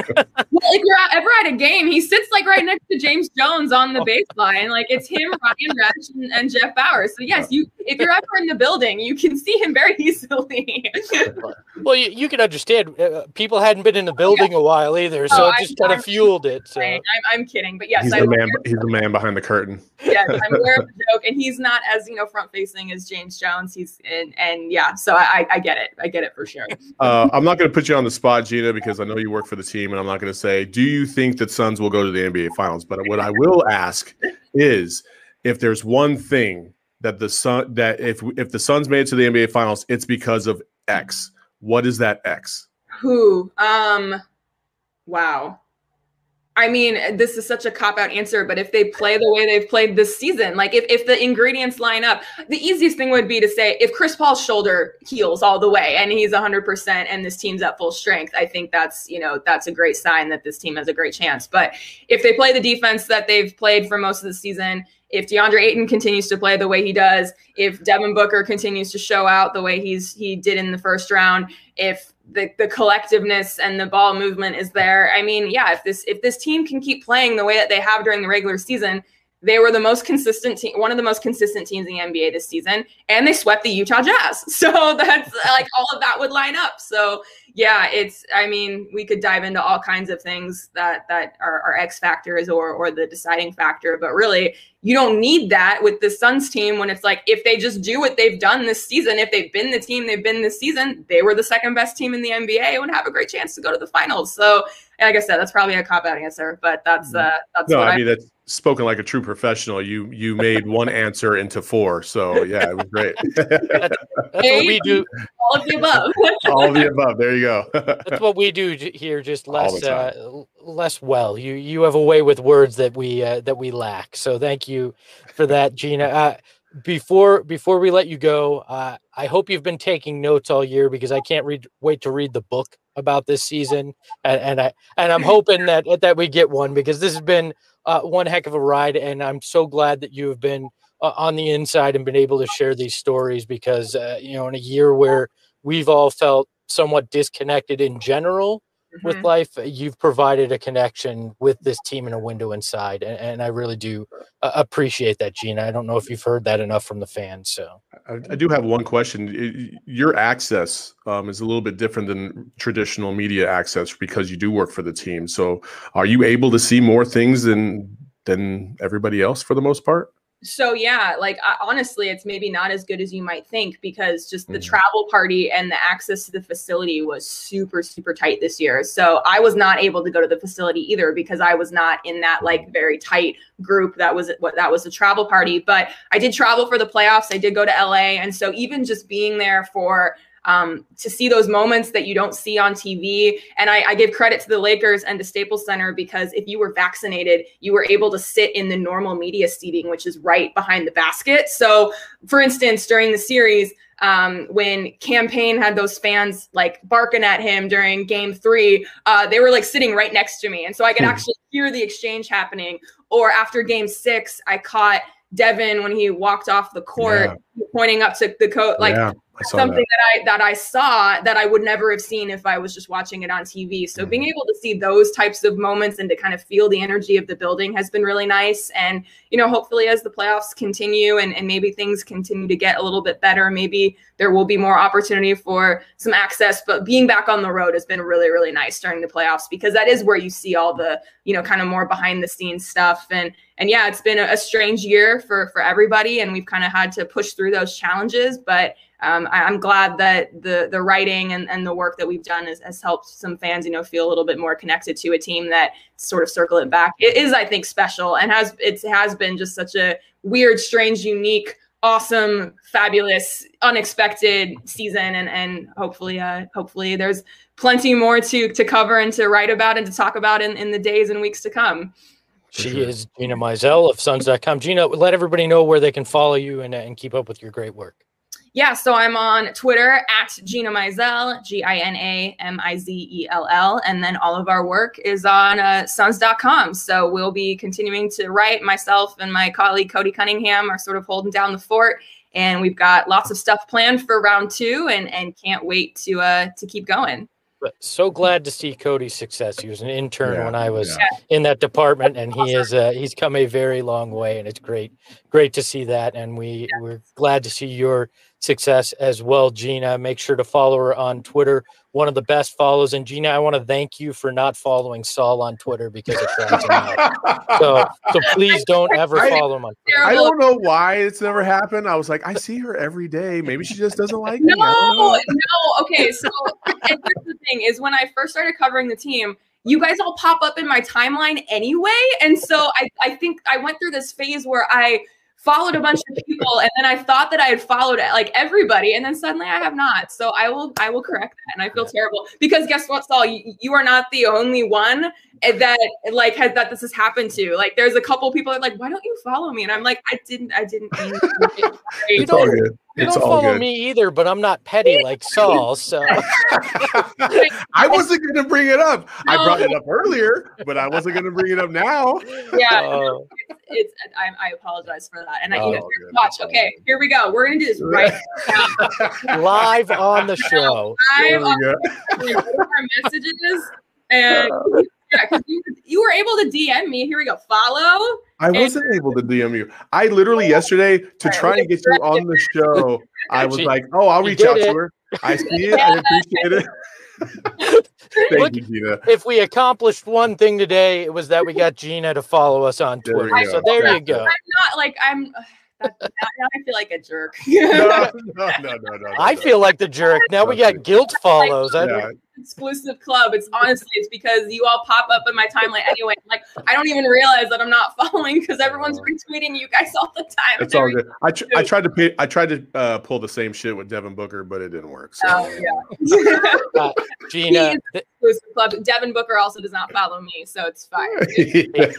Well, if you're ever at a game, he sits like right next to James Jones on the baseline. Like it's him, Ryan Resch, and, and Jeff Bauer. So yes, you if you're ever in the building, you can see him very easily. Well, you, you can understand. Uh, people hadn't been in the building a while either, so oh, it just I'm, kind of fueled it. So. I'm, I'm kidding, but yes, he's I'm the man. He's the man behind the curtain. Yes, I'm aware of the joke, and he's not as you know front facing as James Jones. He's and and yeah, so I I get it. I get it for sure. Uh, I'm not going to put you on the spot, Gina, because I know you work for the team, and I'm not going to say, do you think that Suns will go to the N B A Finals? But what I will ask is, if there's one thing that the Sun that if if the Suns made it to the N B A Finals, it's because of X. What is that X? Who? Um. Wow. I mean, this is such a cop-out answer, but if they play the way they've played this season, like if, if the ingredients line up, the easiest thing would be to say if Chris Paul's shoulder heals all the way and he's one hundred percent and this team's at full strength, I think that's, you know, that's a great sign that this team has a great chance. But if they play the defense that they've played for most of the season, if DeAndre Ayton continues to play the way he does, if Devin Booker continues to show out the way he's he did in the first round, if the, the collectiveness and the ball movement is there, I mean, yeah, if this if this team can keep playing the way that they have during the regular season, They were the most consistent team, one of the most consistent teams in the N B A this season, and they swept the Utah Jazz. So that's like all of that would line up. So yeah, it's, I mean, we could dive into all kinds of things that that are, are X factors or or the deciding factor, but really you don't need that with the Suns team when it's like, if they just do what they've done this season, if they've been the team they've been this season, they were the second best team in the N B A and would have a great chance to go to the finals. So like I said, that's probably a cop-out answer, but that's uh, that's no, what I I mean, that's spoken like a true professional. You you made one answer into four, so yeah, it was great. That's, that's what we do. All of the above. All of the above. There you go. That's what we do here, just less uh, less well. You you have a way with words that we uh, that we lack. So thank you for that, Gina. Uh, before before we let you go, uh, I hope you've been taking notes all year because I can't read wait to read the book about this season, and, and I and I'm hoping that that we get one because this has been uh, one heck of a ride, and I'm so glad that you have been uh, on the inside and been able to share these stories because uh, you know, in a year where we've all felt somewhat disconnected in general mm-hmm. with life, you've provided a connection with this team in a window inside, and, and I really do uh, appreciate that, Gina. I don't know if you've heard that enough from the fans. So I, I do have one question. Your access um, is a little bit different than traditional media access because you do work for the team. So are you able to see more things than than everybody else for the most part? So yeah, like uh, honestly, it's maybe not as good as you might think because just the mm-hmm. travel party and the access to the facility was super, super tight this year. So I was not able to go to the facility either because I was not in that like very tight group that was what that was a travel party. But I did travel for the playoffs. I did go to L A, and so even just being there for Um, to see those moments that you don't see on T V. And I, I give credit to the Lakers and to Staples Center because if you were vaccinated, you were able to sit in the normal media seating, which is right behind the basket. So for instance, during the series, um, when Cam Payne had those fans like barking at him during game three, uh, they were like sitting right next to me. And so I could actually hear the exchange happening. Or after game six, I caught Devin when he walked off the court, yeah. pointing up to the coach, like yeah, something that. that I that I saw that I would never have seen if I was just watching it on T V. So mm-hmm. being able to see those types of moments and to kind of feel the energy of the building has been really nice. And you know, hopefully, as the playoffs continue and, and maybe things continue to get a little bit better, maybe there will be more opportunity for some access. But being back on the road has been really, really nice during the playoffs because that is where you see all the you know kind of more behind the scenes stuff. And and yeah, it's been a, a strange year for for everybody, and we've kind of had to push through those challenges. But um, I, I'm glad that the the writing and, and the work that we've done has, has helped some fans, you know, feel a little bit more connected to a team that sort of circle it back. It is, I think, special and has it has been just such a weird, strange, unique, awesome, fabulous, unexpected season, and and hopefully, uh, hopefully, there's plenty more to to cover and to write about and to talk about in, in the days and weeks to come. She is Gina Mizell of Suns dot com. Gina, let everybody know where they can follow you and, and keep up with your great work. Yeah, so I'm on Twitter at Gina Mizell, G I N A M I Z E L L, and then all of our work is on uh, Suns dot com. So we'll be continuing to write. Myself and my colleague Cody Cunningham are sort of holding down the fort, and we've got lots of stuff planned for round two, and and can't wait to uh to keep going. But so glad to see Cody's success. He was an intern yeah, when I was yeah. in that department, and he is uh, he's come a very long way, and it's great, great to see that. And we yeah. we're glad to see your success as well, Gina. Make sure to follow her on Twitter. One of the best follows. And Gina, I want to thank you for not following Saul on Twitter because it drives him out. So, so please don't ever I, follow him on Twitter. I don't know why it's never happened. I was like, I see her every day. Maybe she just doesn't like no, me. No, no. Okay, so and here's the thing is when I first started covering the team, you guys all pop up in my timeline anyway. And so I, I think I went through this phase where I followed a bunch of people, and then I thought that I had followed like everybody, and then suddenly I have not. So I will, I will correct that, and I feel terrible because guess what, Saul? You, you are not the only one that like has that this has happened to. Like, there's a couple people that are like, why don't you follow me? And I'm like, I didn't, I didn't mean to. It's all good. You it's don't all follow good. me either, but I'm not petty like Saul. So I wasn't going to bring it up. No. I brought it up earlier, but I wasn't going to bring it up now. Yeah, Uh, it's, it's I, I apologize for that. And I, Oh, you know, good. watch. Okay, here we go. We're gonna do this right now. live on the show. I'm There we on go. our messages, and yeah, because you, you were were able to D M me. Here we go. Follow. I wasn't and- able to D M you. I literally yesterday to right, try and get you on the show. I was she, like, oh, I'll reach out it. to her. I see it. I appreciate it. Thank Look, you, Gina. If we accomplished one thing today, it was that we got Gina to follow us on Twitter. There so there yeah. you go. I'm not like I'm. That, now I feel like a jerk. no, no, no, no, no, no. I feel like the jerk. Now we got guilt follows. Like, yeah. Exclusive club. It's honestly, it's because you all pop up in my timeline anyway. Like I don't even realize that I'm not following because everyone's retweeting you guys all the time. It's all good. I, tr- I tried to pay, I tried to uh, pull the same shit with Devin Booker, but it didn't work. So. Oh yeah. uh, Gina, exclusive club. Devin Booker also does not follow me, so it's fine. yeah.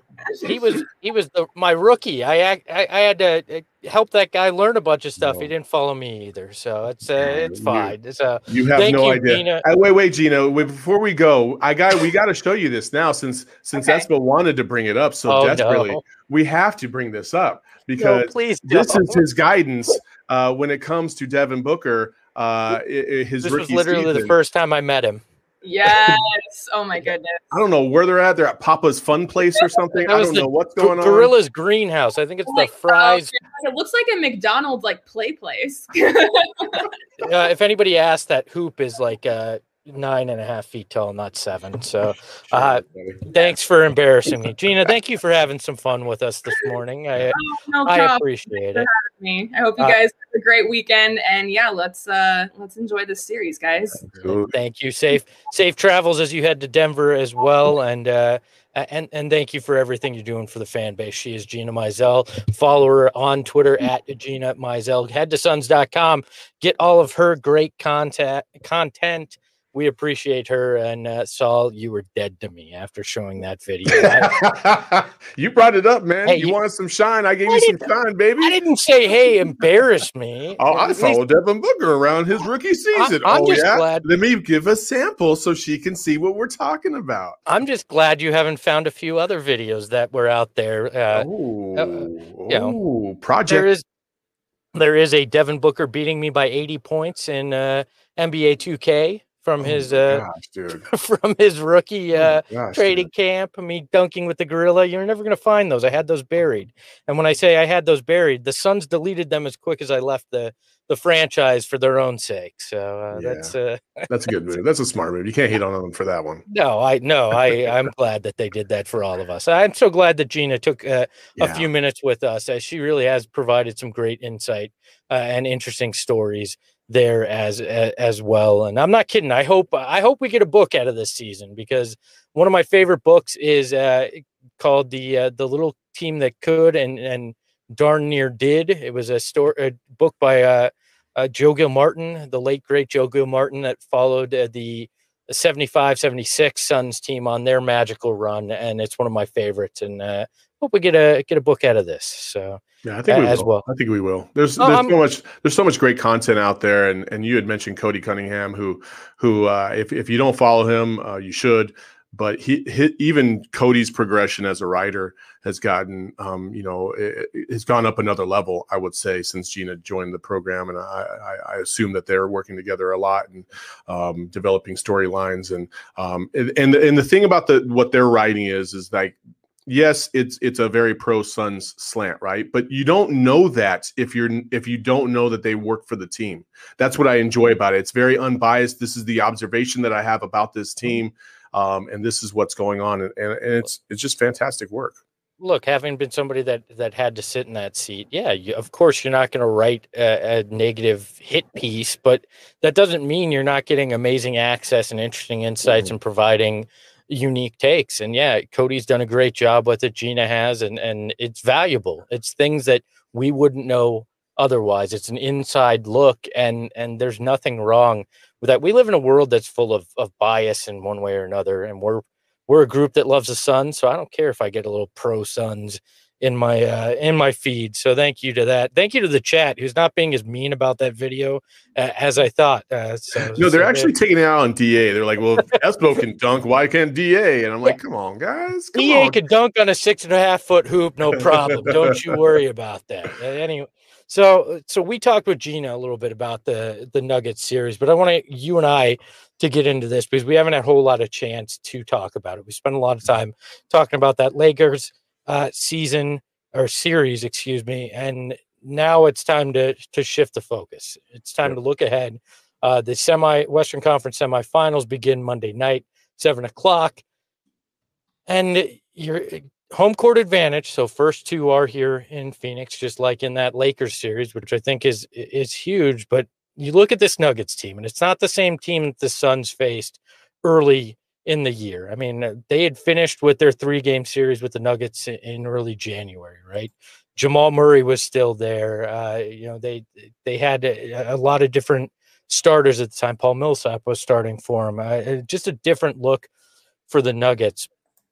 He was he was the my rookie. I I, I had to help that guy learn a bunch of stuff. No. He didn't follow me either, so it's uh, it's fine. It's uh, you have no you, idea. Gina. Uh, wait, wait, Gina. Wait, before we go, I got we got to show you this now since since okay. Espo wanted to bring it up so oh, desperately. No. We have to bring this up because no, please this don't. is his guidance uh, when it comes to Devin Booker. Uh, his this rookie was literally season. the first time I met him. Yes. Oh my goodness. I don't know where they're at. They're at Papa's Fun Place or something. I don't know what's going G- on. Gorilla's Greenhouse. I think it's oh the fries. God. It looks like a McDonald's like play place. uh, if anybody asked, that hoop is like uh, nine and a half feet tall, not seven. So uh, thanks for embarrassing me. Gina, thank you for having some fun with us this morning. I, oh, no I appreciate it. Me. I hope you guys uh, have a great weekend, and yeah, let's uh let's enjoy this series, guys. Thank you. Safe safe travels as you head to Denver as well, and uh and and thank you for everything you're doing for the fan base. She is Gina Mizell. Follow her on Twitter at Gina Mizell. Head to suns dot com. Get all of her great content content. We appreciate her. And uh, Saul, you were dead to me after showing that video. I, you brought it up, man. Hey, you, you wanted some shine. I gave I you some shine, baby. I didn't say, hey, embarrass me. Oh, I followed Devin Booker around his rookie season. I, I'm oh, just yeah? glad. Let me give a sample so she can see what we're talking about. I'm just glad you haven't found a few other videos that were out there. Uh, oh, uh, you know, project. There is, there is a Devin Booker beating me by eighty points in uh, N B A two K. From his oh uh, gosh, dude. from his rookie uh, oh gosh, trading dude. camp, I mean, dunking with the gorilla. You're never going to find those. I had those buried, and when I say I had those buried, the Suns deleted them as quick as I left the the franchise for their own sake. So uh, yeah. that's uh, that's a good move. That's a smart move. You can't hate on them for that one. No, I no, I I'm glad that they did that for all of us. I'm so glad that Gina took uh, yeah. a few minutes with us, as she really has provided some great insight uh, and interesting stories there as as well. And I'm not kidding. I hope I hope we get a book out of this season, because one of my favorite books is uh, called the uh, the Little Team That Could and and Darn Near Did. It was a story a book by uh, uh, Joe Gilmartin, the late great Joe Gilmartin, that followed uh, the seventy-five seventy-six Suns team on their magical run, and it's one of my favorites. And uh, hope we get a get a book out of this. So. Yeah, I think we as will. well. I think we will. There's there's um, so much there's so much great content out there, and and you had mentioned Cody Cunningham, who who uh, if if you don't follow him, uh, you should. But he, he even Cody's progression as a writer has gotten um, you know it, it's gone up another level, I would say, since Gina joined the program, and I I, I assume that they're working together a lot and um, developing storylines, and um and and the, and the thing about the what they're writing is is like. Yes, it's it's a very pro Suns slant, right? But you don't know that if you're if you don't know that they work for the team. That's what I enjoy about it. It's very unbiased. This is the observation that I have about this team, um, and this is what's going on, and, and, and it's it's just fantastic work. Look, having been somebody that that had to sit in that seat, yeah, you, of course you're not going to write a, a negative hit piece, but that doesn't mean you're not getting amazing access and interesting insights mm-hmm. and providing unique takes. And yeah, Cody's done a great job with it. Gina has, and and it's valuable. It's things that we wouldn't know otherwise. It's an inside look, and and there's nothing wrong with that. We live in a world that's full of of bias in one way or another, and we're we're a group that loves the Suns, so I don't care if I get a little pro Suns in my uh, in my feed. So thank you to that. Thank you to the chat who's not being as mean about that video uh, as I thought. Uh, so, no, they're so actually taking it out on D A. They're like, well, Espo can dunk. Why can't D A? And I'm like, yeah. come on, guys. Come D A on. could dunk on a six and a half foot hoop. No problem. Don't you worry about that. Uh, anyway. So, so we talked with Gina a little bit about the the Nuggets series, but I want you and I to get into this because we haven't had a whole lot of chance to talk about it. We spent a lot of time talking about that Lakers uh, season or series, excuse me, and now it's time to to shift the focus. It's time Yep. to look ahead. Uh, the semi Western Conference semifinals begin Monday night, seven o'clock, and your home court advantage. So first two are here in Phoenix, just like in that Lakers series, which I think is is huge. But you look at this Nuggets team, and it's not the same team that the Suns faced early in the year. I mean, they had finished with their three game series with the Nuggets in early January, right? Jamal Murray was still there. Uh, you know, they they had a, a lot of different starters at the time. Paul Millsap was starting for him. Uh, just a different look for the Nuggets.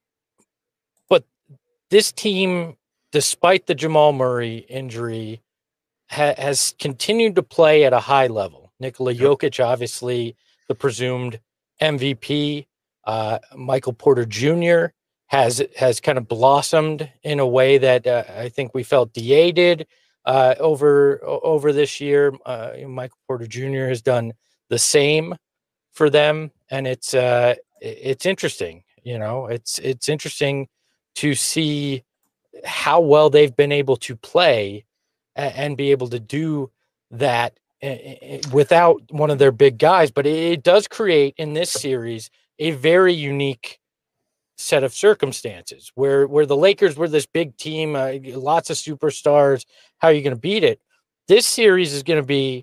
But this team, despite the Jamal Murray injury, ha- has continued to play at a high level. Nikola Jokic, obviously the presumed M V P. Uh, Michael Porter Junior has has kind of blossomed in a way that uh, I think we felt D A did uh, over over this year. Uh, Michael Porter Junior has done the same for them, and it's uh, it's interesting. You know, it's it's interesting to see how well they've been able to play and, and be able to do that without one of their big guys. But it does create in this series a very unique set of circumstances where, where the Lakers were this big team, uh, lots of superstars. How are you going to beat it? This series is going to be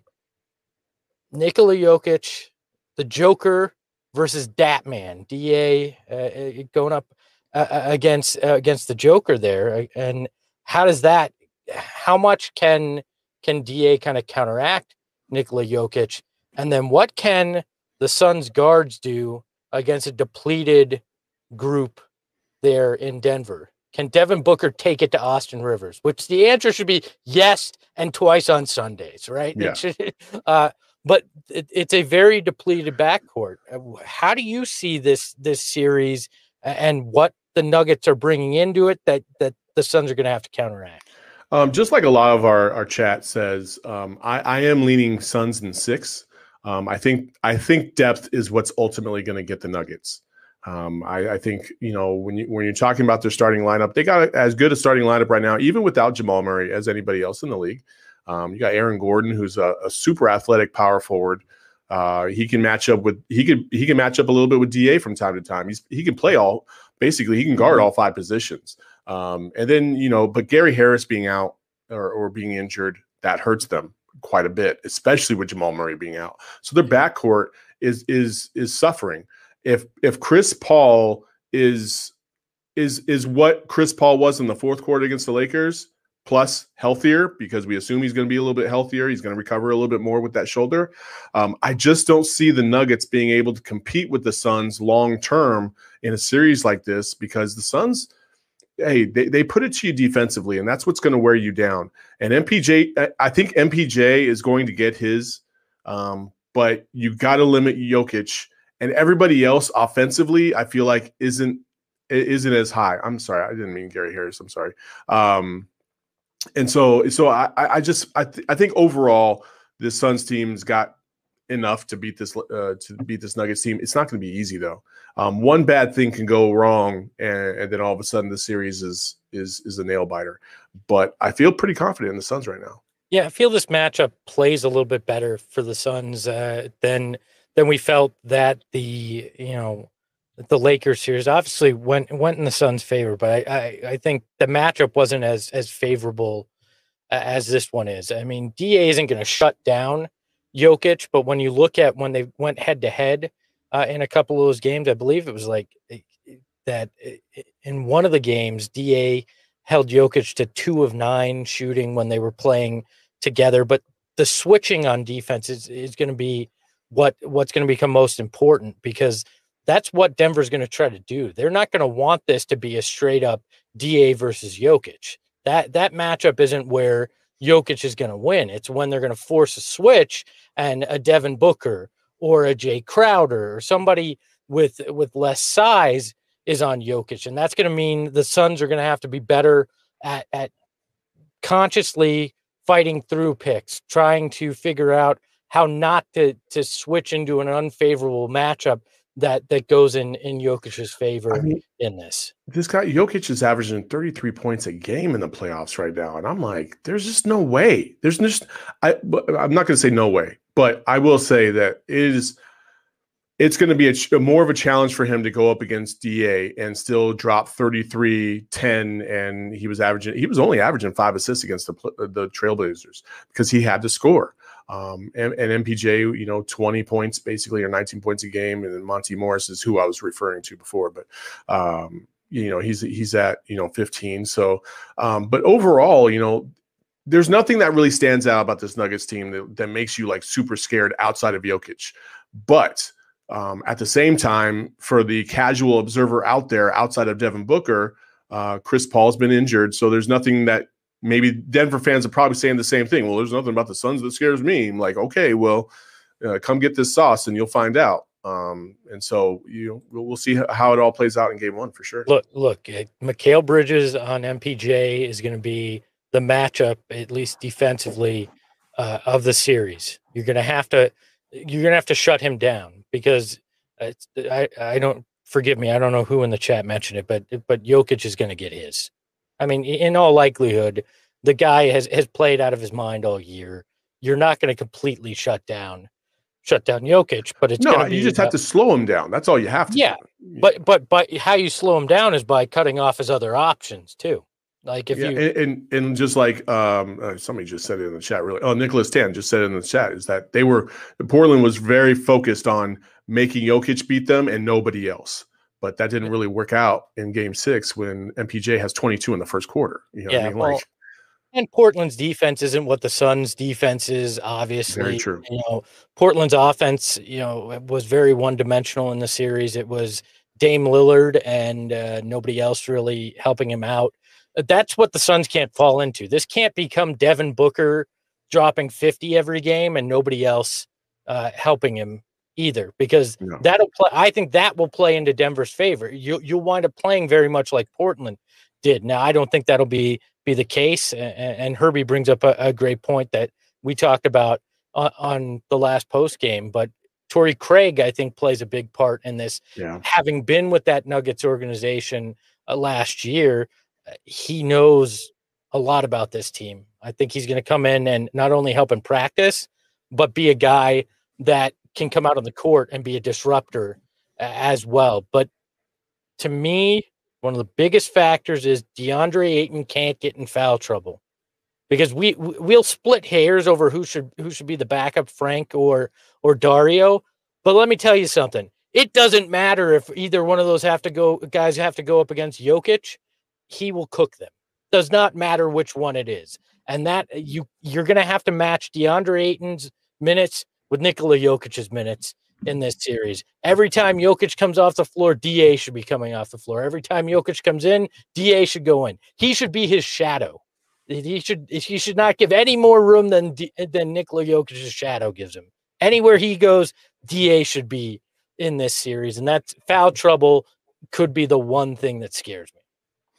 Nikola Jokic, the Joker versus Datman, D A uh, going up uh, against uh, against the Joker there. And how does that, how much can can D A kind of counteract Nikola Jokic? And then what can the Suns guards do against a depleted group there in Denver? Can Devin Booker take it to Austin Rivers? Which the answer should be yes, and twice on Sundays, right? Yeah. It should, uh, but it, it's a very depleted backcourt. How do you see this this series and what the Nuggets are bringing into it that that the Suns are going to have to counteract? Um, just like a lot of our, our chat says, um, I, I am leaning Suns in six. Um, I think I think depth is what's ultimately going to get the Nuggets. Um, I, I think, you know, when you when you're talking about their starting lineup, they got as good a starting lineup right now, even without Jamal Murray, as anybody else in the league. Um, you got Aaron Gordon, who's a, a super athletic power forward. Uh, he can match up with he could he can match up a little bit with D A from time to time. He's he can play all basically he can guard all five positions. Um, and then you know, but Gary Harris being out or, or being injured, that hurts them quite a bit, especially with Jamal Murray being out. So their backcourt is is is suffering. If if Chris Paul is is is what Chris Paul was in the fourth quarter against the Lakers, plus healthier, because we assume he's going to be a little bit healthier, he's going to recover a little bit more with that shoulder. Um, I just don't see the Nuggets being able to compete with the Suns long term in a series like this, because the Suns, hey, they, they put it to you defensively, and that's what's going to wear you down. And M P J, I think M P J is going to get his, um, but you got to limit Jokic. And everybody else offensively, I feel like isn't isn't as high. I'm sorry, I didn't mean Gary Harris. I'm sorry. Um, and so, so I, I just I, th- I think overall the Suns team's got enough to beat this uh, to beat this Nuggets team. It's not going to be easy though. Um, one bad thing can go wrong, and, and then all of a sudden the series is is is a nail biter. But I feel pretty confident in the Suns right now. Yeah, I feel this matchup plays a little bit better for the Suns uh, than. Then we felt that the, you know, the Lakers series obviously went went in the Suns' favor, but I, I, I think the matchup wasn't as as favorable as this one is. I mean, D A isn't going to shut down Jokic, but when you look at when they went head to head in a couple of those games, I believe it was like that in one of the games, D A held Jokic to two of nine shooting when they were playing together. But the switching on defense is, is going to be what what's going to become most important, because that's what Denver's going to try to do. They're not going to want this to be a straight up D A versus Jokic. That that matchup isn't where Jokic is going to win. It's when they're going to force a switch and a Devin Booker or a Jay Crowder or somebody with with less size is on Jokic. And that's going to mean the Suns are going to have to be better at, at consciously fighting through picks, trying to figure out how not to to switch into an unfavorable matchup that that goes in in Jokic's favor. I mean, in this. This guy Jokic is averaging thirty-three points a game in the playoffs right now, and I'm like, there's just no way. There's just I. I'm not going to say no way, but I will say that it is. It's going to be a, a more of a challenge for him to go up against D A and still drop thirty-three, ten, and he was averaging. He was only averaging five assists against the the Trailblazers because he had to score. Um, and, and M P J, you know, twenty points basically, or nineteen points a game, and then Monty Morris is who I was referring to before, but um, you know, he's he's at you know fifteen. So, um, but overall, you know, there's nothing that really stands out about this Nuggets team that, that makes you like super scared outside of Jokic, but Um, at the same time, for the casual observer out there, outside of Devin Booker, uh, Chris Paul's been injured. So there's nothing that maybe Denver fans are probably saying the same thing. Well, there's nothing about the Suns that scares me. I'm like, okay, well, uh, come get this sauce and you'll find out. Um, and so you we'll, we'll see how it all plays out in game one for sure. Look, look, uh, Mikal Bridges on M P J is going to be the matchup, at least defensively, uh, of the series. You're going to have to, you're going to have to shut him down. Because it's, I, I don't forgive me. I don't know who in the chat mentioned it, but but Jokic is going to get his. I mean, in all likelihood, the guy has, has played out of his mind all year. You're not going to completely shut down shut down Jokic, but it's no. Gonna be you just about, have to slow him down. That's all you have to. Yeah, do. but but but how you slow him down is by cutting off his other options too. Like if yeah, you and, and and just like um uh, somebody just said it in the chat really oh Nicholas Tan just said it in the chat is that they were Portland was very focused on making Jokic beat them and nobody else, but that didn't really work out in game six when M P J has twenty-two in the first quarter. You know yeah, what I mean? well, like, and Portland's defense isn't what the Suns' defense is. Obviously, very true. You know, Portland's offense, you know, was very one-dimensional in the series. It was Dame Lillard and uh, nobody else really helping him out. That's what the Suns can't fall into. This can't become Devin Booker dropping fifty every game and nobody else uh, helping him either, because no. that'll play. I think that will play into Denver's favor. You, you'll wind up playing very much like Portland did. Now, I don't think that'll be be the case. And, and Herbie brings up a, a great point that we talked about on, on the last post game. But Torrey Craig, I think, plays a big part in this. Yeah. Having been with that Nuggets organization uh, last year, he knows a lot about this team. I think he's going to come in and not only help in practice, but be a guy that can come out on the court and be a disruptor as well. But to me, one of the biggest factors is DeAndre Ayton can't get in foul trouble, because we we'll split hairs over who should who should be the backup, Frank or or Dario. But let me tell you something. It doesn't matter if either one of those have to go guys have to go up against Jokic. He will cook them. Does not matter which one it is. And that you, you're going to have to match DeAndre Ayton's minutes with Nikola Jokic's minutes in this series. Every time Jokic comes off the floor, D A should be coming off the floor. Every time Jokic comes in, D A should go in. He should be his shadow. He should he should not give any more room than D, than Nikola Jokic's shadow gives him. Anywhere he goes, D A should be in this series. And that's foul trouble could be the one thing that scares me.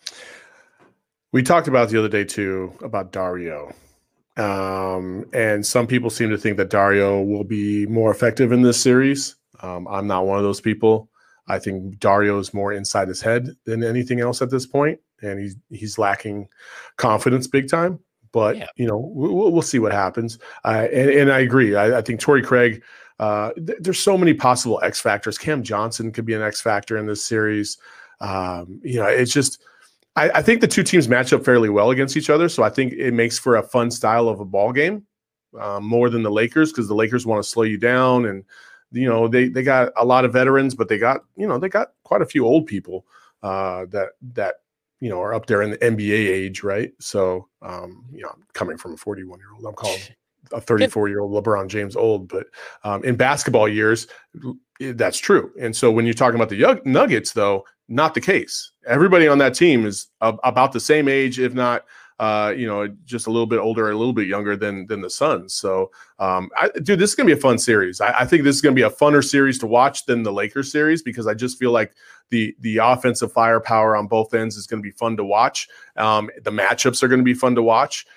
We talked about the other day too about Dario, um, and some people seem to think that Dario will be more effective in this series. Um, I'm not one of those people. I think Dario is more inside his head than anything else at this point, and he's he's lacking confidence big time. But yeah. you know, we'll, we'll see what happens. Uh, and, and I agree. I, I think Torrey Craig. Uh, th- there's so many possible X factors. Cam Johnson could be an X factor in this series. Um, you know, it's just. I think the two teams match up fairly well against each other, so I think it makes for a fun style of a ball game, um, more than the Lakers, because the Lakers want to slow you down, and you know they they got a lot of veterans, but they got you know they got quite a few old people uh, that that you know are up there in the N B A age, right? So um, you know, coming from a forty-one year old, I'm calling a thirty-four year old LeBron James old, but um, in basketball years, that's true. And so when you're talking about the Nuggets, though. Not the case. Everybody on that team is ab- about the same age, if not, uh, you know, just a little bit older, a little bit younger than than the Suns. So, um, I, dude, this is gonna be a fun series. I, I think this is gonna be a funner series to watch than the Lakers series, because I just feel like the the offensive firepower on both ends is gonna be fun to watch. Um, the matchups are gonna be fun to watch.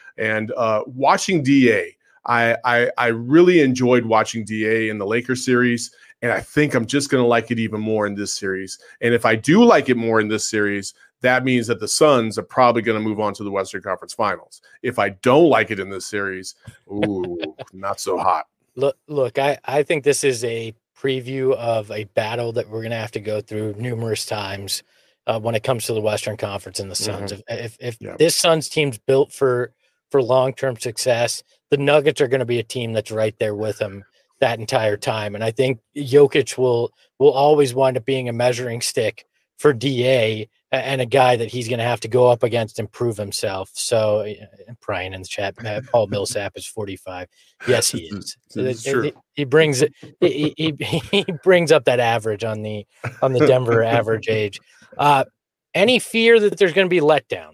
And uh, watching D A, I, I I really enjoyed watching D A in the Lakers series, and I think I'm just going to like it even more in this series. And if I do like it more in this series, that means that the Suns are probably going to move on to the Western Conference Finals. If I don't like it in this series, ooh, not so hot. Look, look, I, I think this is a preview of a battle that we're going to have to go through numerous times uh, when it comes to the Western Conference and the Suns. Mm-hmm. If if, if yeah. this Suns team's built for for long-term success, the Nuggets are going to be a team that's right there with them that entire time. And I think Jokic will will always wind up being a measuring stick for D A and a guy that he's going to have to go up against and prove himself. So, Brian in the chat, Paul Millsap is forty-five. Yes, he is. It's it, true. It, he brings it. He, he, he brings up that average on the on the Denver average age. Uh, any fear that there's going to be letdown?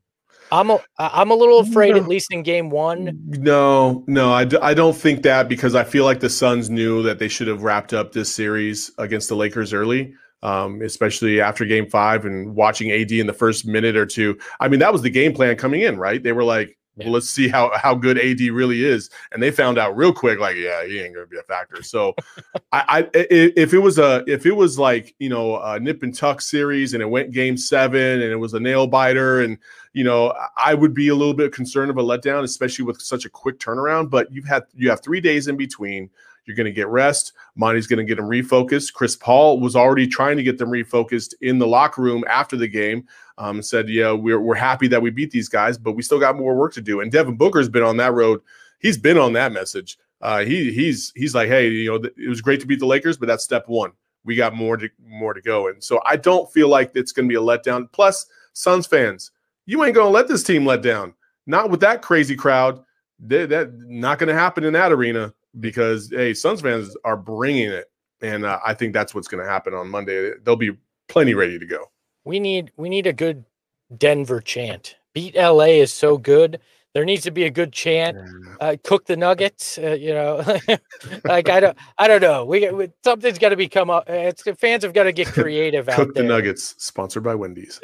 I'm a, I'm a little afraid, no. at least in game one. No, no, I, d- I don't think that, because I feel like the Suns knew that they should have wrapped up this series against the Lakers early, um, especially after game five and watching A D in the first minute or two. I mean, that was the game plan coming in, right? They were like, yeah. well, let's see how, how good A D really is. And they found out real quick, like, yeah, he ain't going to be a factor. So I, I, if it was a, if it was like, you know, a nip and tuck series and it went game seven and it was a nail biter, and, you know, I would be a little bit concerned of a letdown, especially with such a quick turnaround. But you've had you have three days in between. You're going to get rest. Monty's going to get them refocused. Chris Paul was already trying to get them refocused in the locker room after the game. Um, said, yeah, we're we're happy that we beat these guys, but we still got more work to do. And Devin Booker's been on that road. He's been on that message. Uh, he he's he's like, hey, you know, th- it was great to beat the Lakers, but that's step one. We got more to more to go. And so I don't feel like it's going to be a letdown. Plus, Suns fans, you ain't going to let this team let down. Not with that crazy crowd. They, that not going to happen in that arena, because, hey, Suns fans are bringing it. And uh, I think that's what's going to happen on Monday. They'll be plenty ready to go. We need we need a good Denver chant. Beat L A is so good. There needs to be a good chant. Uh, cook the Nuggets. Uh, you know, like I don't, I don't know. We, we something's got to become up. It's the fans have got to get creative out there. Cook the Nuggets, sponsored by Wendy's.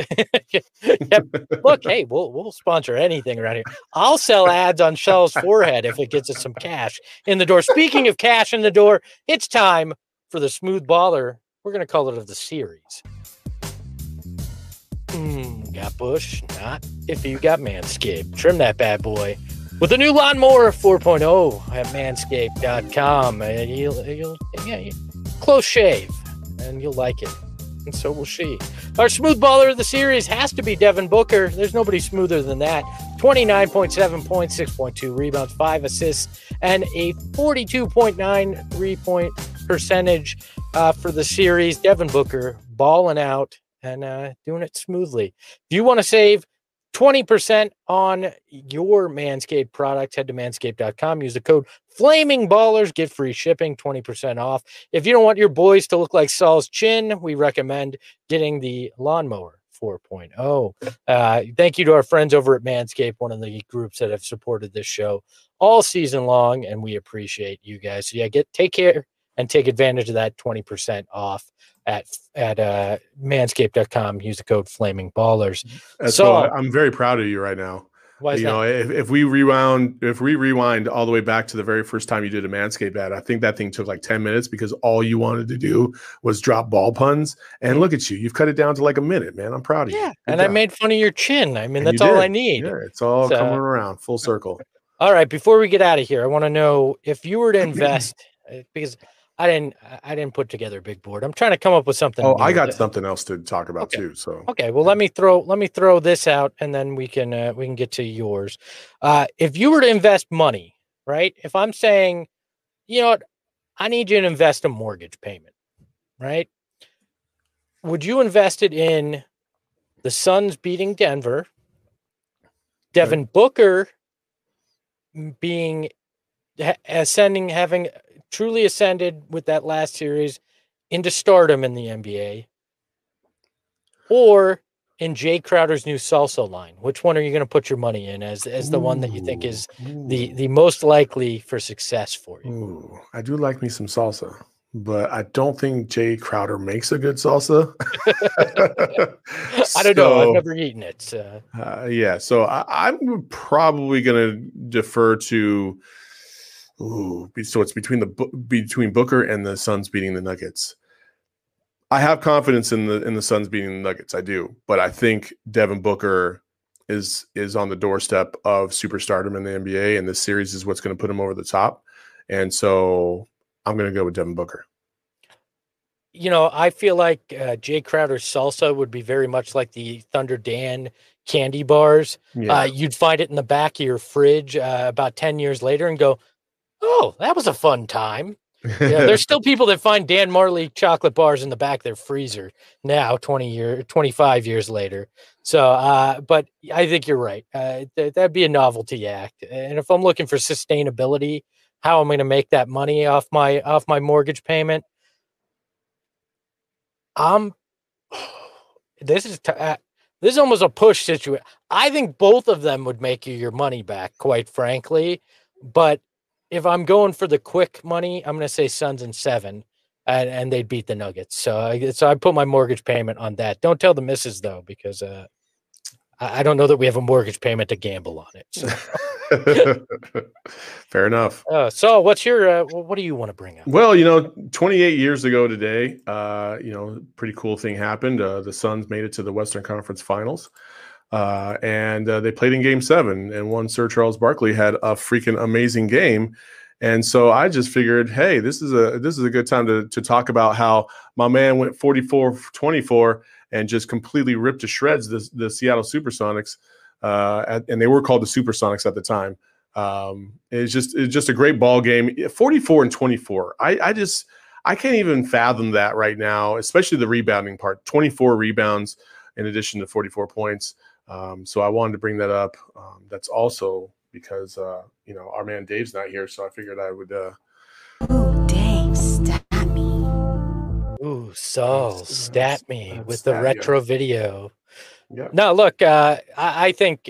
Yep. Look, hey, we'll we'll sponsor anything around here. I'll sell ads on Shell's forehead if it gets us some cash in the door. Speaking of cash in the door, it's time for the Smooth Baller. We're gonna call it of the series. Mm, got Bush? Not if you got Manscaped. Trim that bad boy with the new Lawnmower four point oh at manscaped dot com. And you'll, you'll, yeah, you, close shave, and you'll like it. And so will she. Our smooth baller of the series has to be Devin Booker. There's nobody smoother than that. twenty-nine point seven points, six point two rebounds, five assists, and a forty-two point nine three-point percentage uh, for the series. Devin Booker balling out and uh, doing it smoothly. If you want to save twenty percent on your Manscaped product, head to manscaped dot com. Use the code FLAMINGBALLERS. Get free shipping, twenty percent off. If you don't want your boys to look like Saul's chin, we recommend getting the Lawnmower four point oh. Uh, thank you to our friends over at Manscaped, one of the groups that have supported this show all season long, and we appreciate you guys. So yeah, get take care and take advantage of that twenty percent off at at uh, manscaped dot com. Use the code FLAMINGBALLERS. So, so I'm very proud of you right now. Why is you that? know, if, if we rewound, if we rewind all the way back to the very first time you did a Manscaped ad, I think that thing took like ten minutes because all you wanted to do was drop ball puns. And look at you, you've cut it down to like a minute, man. I'm proud of you. Yeah, and job. I made fun of your chin. I mean, and that's all I need. Yeah, it's all so, coming around full circle. All right, before we get out of here, I want to know if you were to invest because I didn't I didn't put together a big board. I'm trying to come up with something. Oh, I got to, something else to talk about okay. too. So okay, well let me throw let me throw this out and then we can uh, we can get to yours. Uh, if you were to invest money, right? If I'm saying, you know what, I need you to invest a mortgage payment, right? Would you invest it in the Suns beating Denver, Devin okay. Booker being ascending, having truly ascended with that last series into stardom in the N B A, or in Jay Crowder's new salsa line? Which one are you going to put your money in as as the ooh, one that you think is ooh. the the most likely for success for you? Ooh, I do like me some salsa. but I don't think Jay Crowder makes a good salsa. I don't know. I've So, never eaten it. So. uh, yeah, so I, I'm probably going to defer to. Ooh, be- so it's between the Bu- between Booker and the Suns beating the Nuggets. I have confidence in the in the Suns beating the Nuggets. I do, but I think Devin Booker is is on the doorstep of superstardom in the N B A, and this series is what's going to put him over the top. And so I'm going to go with Devin Booker. You know, I feel like uh, Jay Crowder's salsa would be very much like the Thunder Dan candy bars. Yeah, Uh, you'd find it in the back of your fridge uh, about ten years later and go, oh, that was a fun time. Yeah, there's still people that find Dan Marley chocolate bars in the back of their freezer now, twenty year, twenty-five years later. So, uh, but I think you're right. Uh, th- that'd be a novelty act. And if I'm looking for sustainability, how am I going to make that money off my off my mortgage payment? Um, this is t- uh, this is almost a push situation. I think both of them would make you your money back, quite frankly. But if I'm going for the quick money, I'm going to say Suns in seven, and, and they'd beat the Nuggets. So, I, so I put my mortgage payment on that. Don't tell the missus though, because uh, I, I don't know that we have a mortgage payment to gamble on it. So, fair enough. uh, so what's your uh, what do you want to bring up? Well, you know, twenty-eight years ago today, uh, you know, pretty cool thing happened. Uh, the Suns made it to the Western Conference Finals, uh, and uh, they played in Game Seven. And one Sir Charles Barkley had a freaking amazing game. And so I just figured, hey, this is a this is a good time to to talk about how my man went forty-four for twenty-four and just completely ripped to shreds the the Seattle SuperSonics, uh, at, and they were called the SuperSonics at the time. Um, it's just it's just a great ball game. forty-four and twenty-four. I, I just I can't even fathom that right now, especially the rebounding part. twenty-four rebounds in addition to forty-four points. Um, so I wanted to bring that up. Um, that's also because uh, you know, our man Dave's not here, so I figured I would. Uh, Ooh, Dave, stat me. Ooh, Saul, stat me Let's with the stat retro you. video. yeah. No, look, uh, I, I think,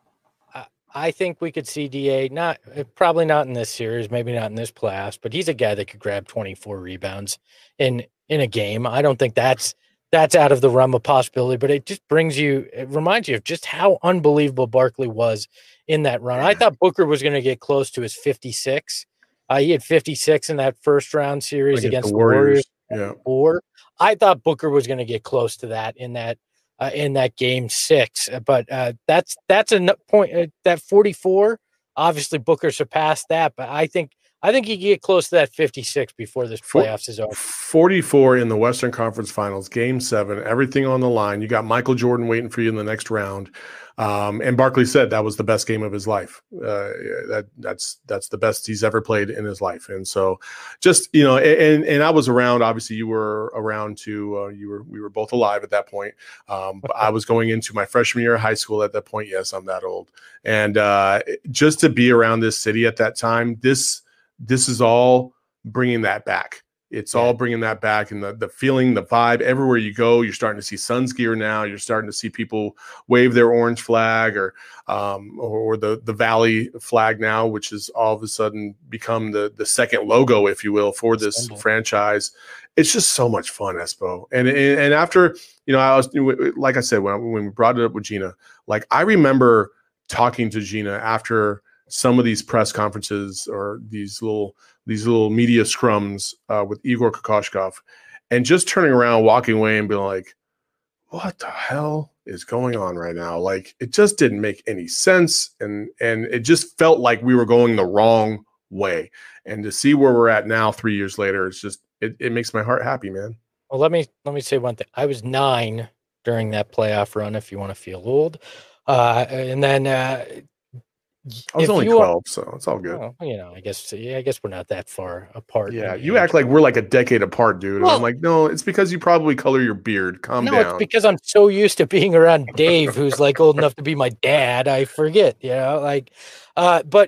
I, I think we could see D A not probably not in this series, maybe not in this playoffs, but he's a guy that could grab twenty-four rebounds in in a game. I don't think that's that's out of the realm of possibility, but it just brings you, it reminds you of just how unbelievable Barkley was in that run. I thought Booker was going to get close to his fifty-six. Uh, he had fifty-six in that first round series against, against the Warriors. Yeah. Or I thought Booker was going to get close to that in that uh, in that game six, but uh, that's that's a n- point uh, that forty-four. Obviously, Booker surpassed that, but I think I think he can get close to that fifty-six before this playoffs is over. forty-four in the Western Conference Finals, Game Seven, everything on the line. You got Michael Jordan waiting for you in the next round, um, and Barkley said that was the best game of his life. Uh, that that's that's the best he's ever played in his life. And so, just you know, and and I was around. Obviously, you were around too. Uh, you were we were both alive at that point. Um, but I was going into my freshman year of high school at that point. Yes, I'm that old. And uh, just to be around this city at that time, this. This is all bringing that back. It's yeah. all bringing that back, and the the feeling, the vibe. Everywhere you go, you're starting to see Suns gear now. You're starting to see people wave their orange flag or um, or the the Valley flag now, which has all of a sudden become the the second logo, if you will, for this Simple. franchise. It's just so much fun, Espo. And and, and after you know, I was like I said when when we brought it up with Gina, like I remember talking to Gina after some of these press conferences or these little these little media scrums uh, with Igor Kokoshkov, and just turning around, walking away, and being like, "What the hell is going on right now?" Like it just didn't make any sense, and and it just felt like we were going the wrong way. And to see where we're at now, three years later, it's just it, it makes my heart happy, man. Well, let me let me say one thing. I was nine during that playoff run. If you want to feel old, uh, and then. Uh, I was if only twelve, are, so it's all good. Well, you know, I guess yeah, I guess we're not that far apart. Yeah, you age. act like we're like a decade apart, dude. Well, and I'm like, no, it's because you probably color your beard. Calm no, down. No, it's because I'm so used to being around Dave, who's like old enough to be my dad. I forget, you know, like, uh, but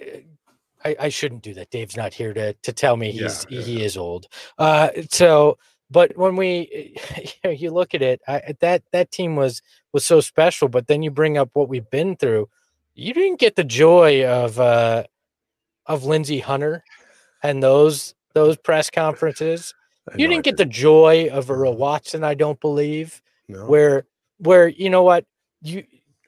I, I shouldn't do that. Dave's not here to to tell me he's yeah, yeah. he is old. Uh, so, but when we you, know, you look at it, I, that that team was was so special. But then you bring up what we've been through. You didn't get the joy of uh, of Lindsey Hunter and those those press conferences. I You know I didn't get did. the joy of Earl Watson, I don't believe, No. where where you know what you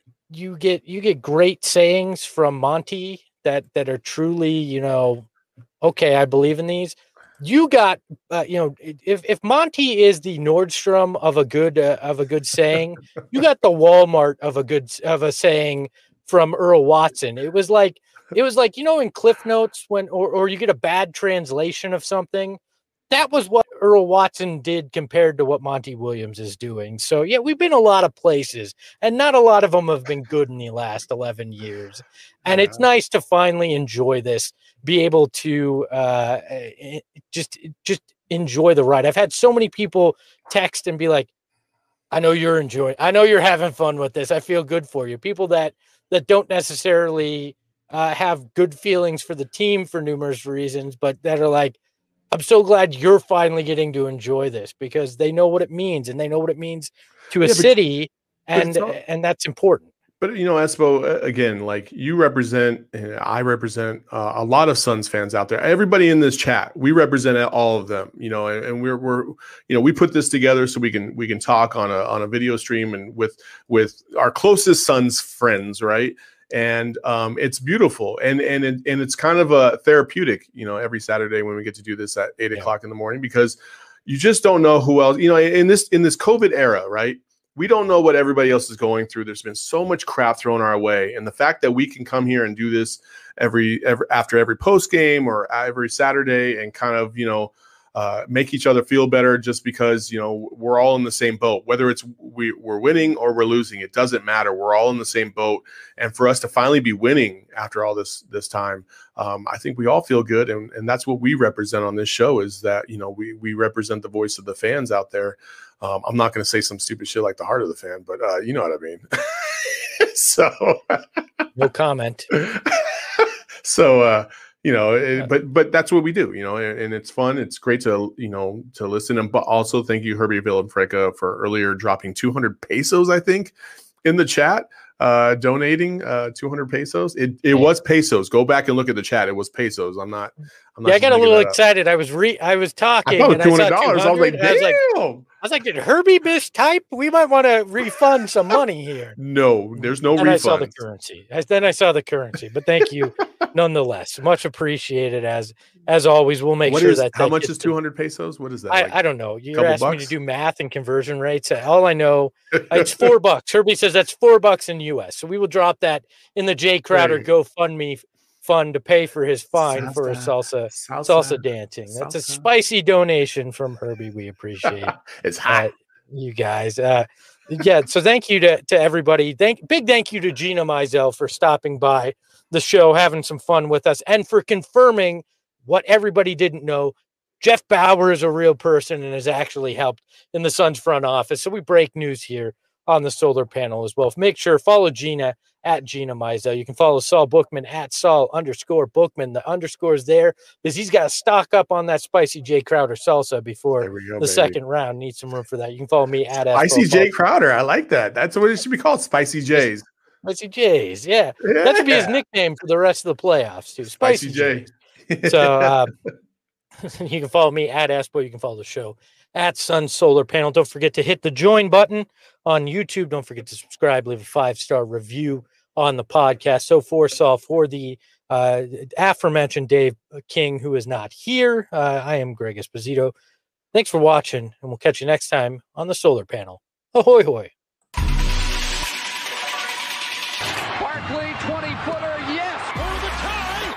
you get you get great sayings from Monty that that are truly, you know, okay, I believe in these. You got, uh, you know, if if Monty is the Nordstrom of a good uh, of a good saying, you got the Walmart of a good of a saying from Earl Watson. It was like it was like, you know, in Cliff Notes when or or you get a bad translation of something. That was what Earl Watson did compared to what Monty Williams is doing. So yeah, we've been a lot of places, and not a lot of them have been good in the last eleven years. And Yeah. it's nice to finally enjoy this, be able to uh, just just enjoy the ride. I've had so many people text and be like, "I know you're enjoying. I know you're having fun with this. I feel good for you." People that that don't necessarily uh, have good feelings for the team for numerous reasons, but that are like, I'm so glad you're finally getting to enjoy this, because they know what it means, and they know what it means to a Yeah, but- city, but and it's all- and that's important. But, you know, Espo, uh, again, like you represent, and I represent uh, a lot of Suns fans out there. Everybody in this chat, we represent all of them, you know, and, and we're, we're, you know, we put this together so we can, we can talk on a, on a video stream and with, with our closest Suns friends. Right. And um, it's beautiful. And, and, it, and it's kind of a therapeutic, you know, every Saturday when we get to do this at eight Yeah. o'clock in the morning, because you just don't know who else, you know, in this, in this COVID era, right? We don't know what everybody else is going through. There's been so much crap thrown our way. And the fact that we can come here and do this every, every after every post game or every Saturday and kind of, you know, uh, make each other feel better just because, you know, we're all in the same boat, whether it's we, we're winning or we're losing, it doesn't matter. We're all in the same boat. And for us to finally be winning after all this, this time, um, I think we all feel good. And, and that's what we represent on this show, is that, you know, we, we represent the voice of the fans out there. Um, I'm not going to say some stupid shit like the heart of the fan, but uh, you know what I mean. so, No comment. so uh, you know, it, but but that's what we do, you know, and, and it's fun. It's great to you know to listen, and but also thank you, Herbie Villanfranca, for earlier dropping two hundred pesos, I think, in the chat, uh, donating uh, two hundred pesos. It it was pesos. Go back and look at the chat. It was pesos. I'm not. I'm not Yeah, I got a just little making that up. excited. I was re I was talking. I thought it and was two I hundred saw dollars. I was like, two hundred. I was like, damn. I was like, did Herbie mistype? We might want to refund some money here. No, there's no And refund. I saw the currency. I, then I saw the currency. But thank you, nonetheless. Much appreciated. As as always, we'll make What sure is that how that much gets is to- two hundred pesos? What is that? I, like? I don't know. You're couple asking me to bucks? do math and conversion rates. All I know, it's four bucks. Herbie says that's four bucks in U S. So we will drop that in the Jay Crowder Hey. GoFundMe fund to pay for his fine for his salsa salsa dancing. That's a Salsa. spicy donation from Herbie. We appreciate It's uh, hot. you guys. Uh, yeah. So thank you to, to everybody. Thank big thank you to Gina Mizell for stopping by the show, having some fun with us, and for confirming what everybody didn't know. Jeff Bauer is a real person and has actually helped in the Suns front office. So we break news here on the solar panel as well. Make sure follow Gina at Gina Mizell. You can follow Saul Bookman at Saul underscore Bookman. The underscore is there because he's got to stock up on that spicy Jay Crowder salsa before There we go, the baby. second round. Need some room for that. You can follow me at Spicy Espo. Jay Crowder. I like that. That's what it should be called. Spicy Jays. Spicy Jays. Yeah. That should be his Yeah. nickname for the rest of the playoffs too. Spicy, Spicy Jay. Jays. So uh, you can follow me at Espo. You can follow the show at Sun Solar Panel. Don't forget to hit the join button on YouTube. Don't forget to subscribe, leave a five-star review on the podcast. So for Saul, for the uh, aforementioned Dave King, who is not here, uh, I am Greg Esposito. Thanks for watching, and we'll catch you next time on the Solar Panel. Ahoy, hoy. Barkley, twenty-footer, yes! For the tie!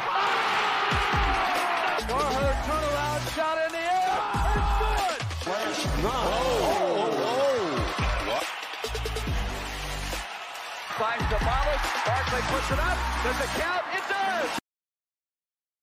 Ah! Carter, turnaround shot in the air! It's good! No! Oh, oh, oh. Finds the Barkley puts it up. Does it count? It does!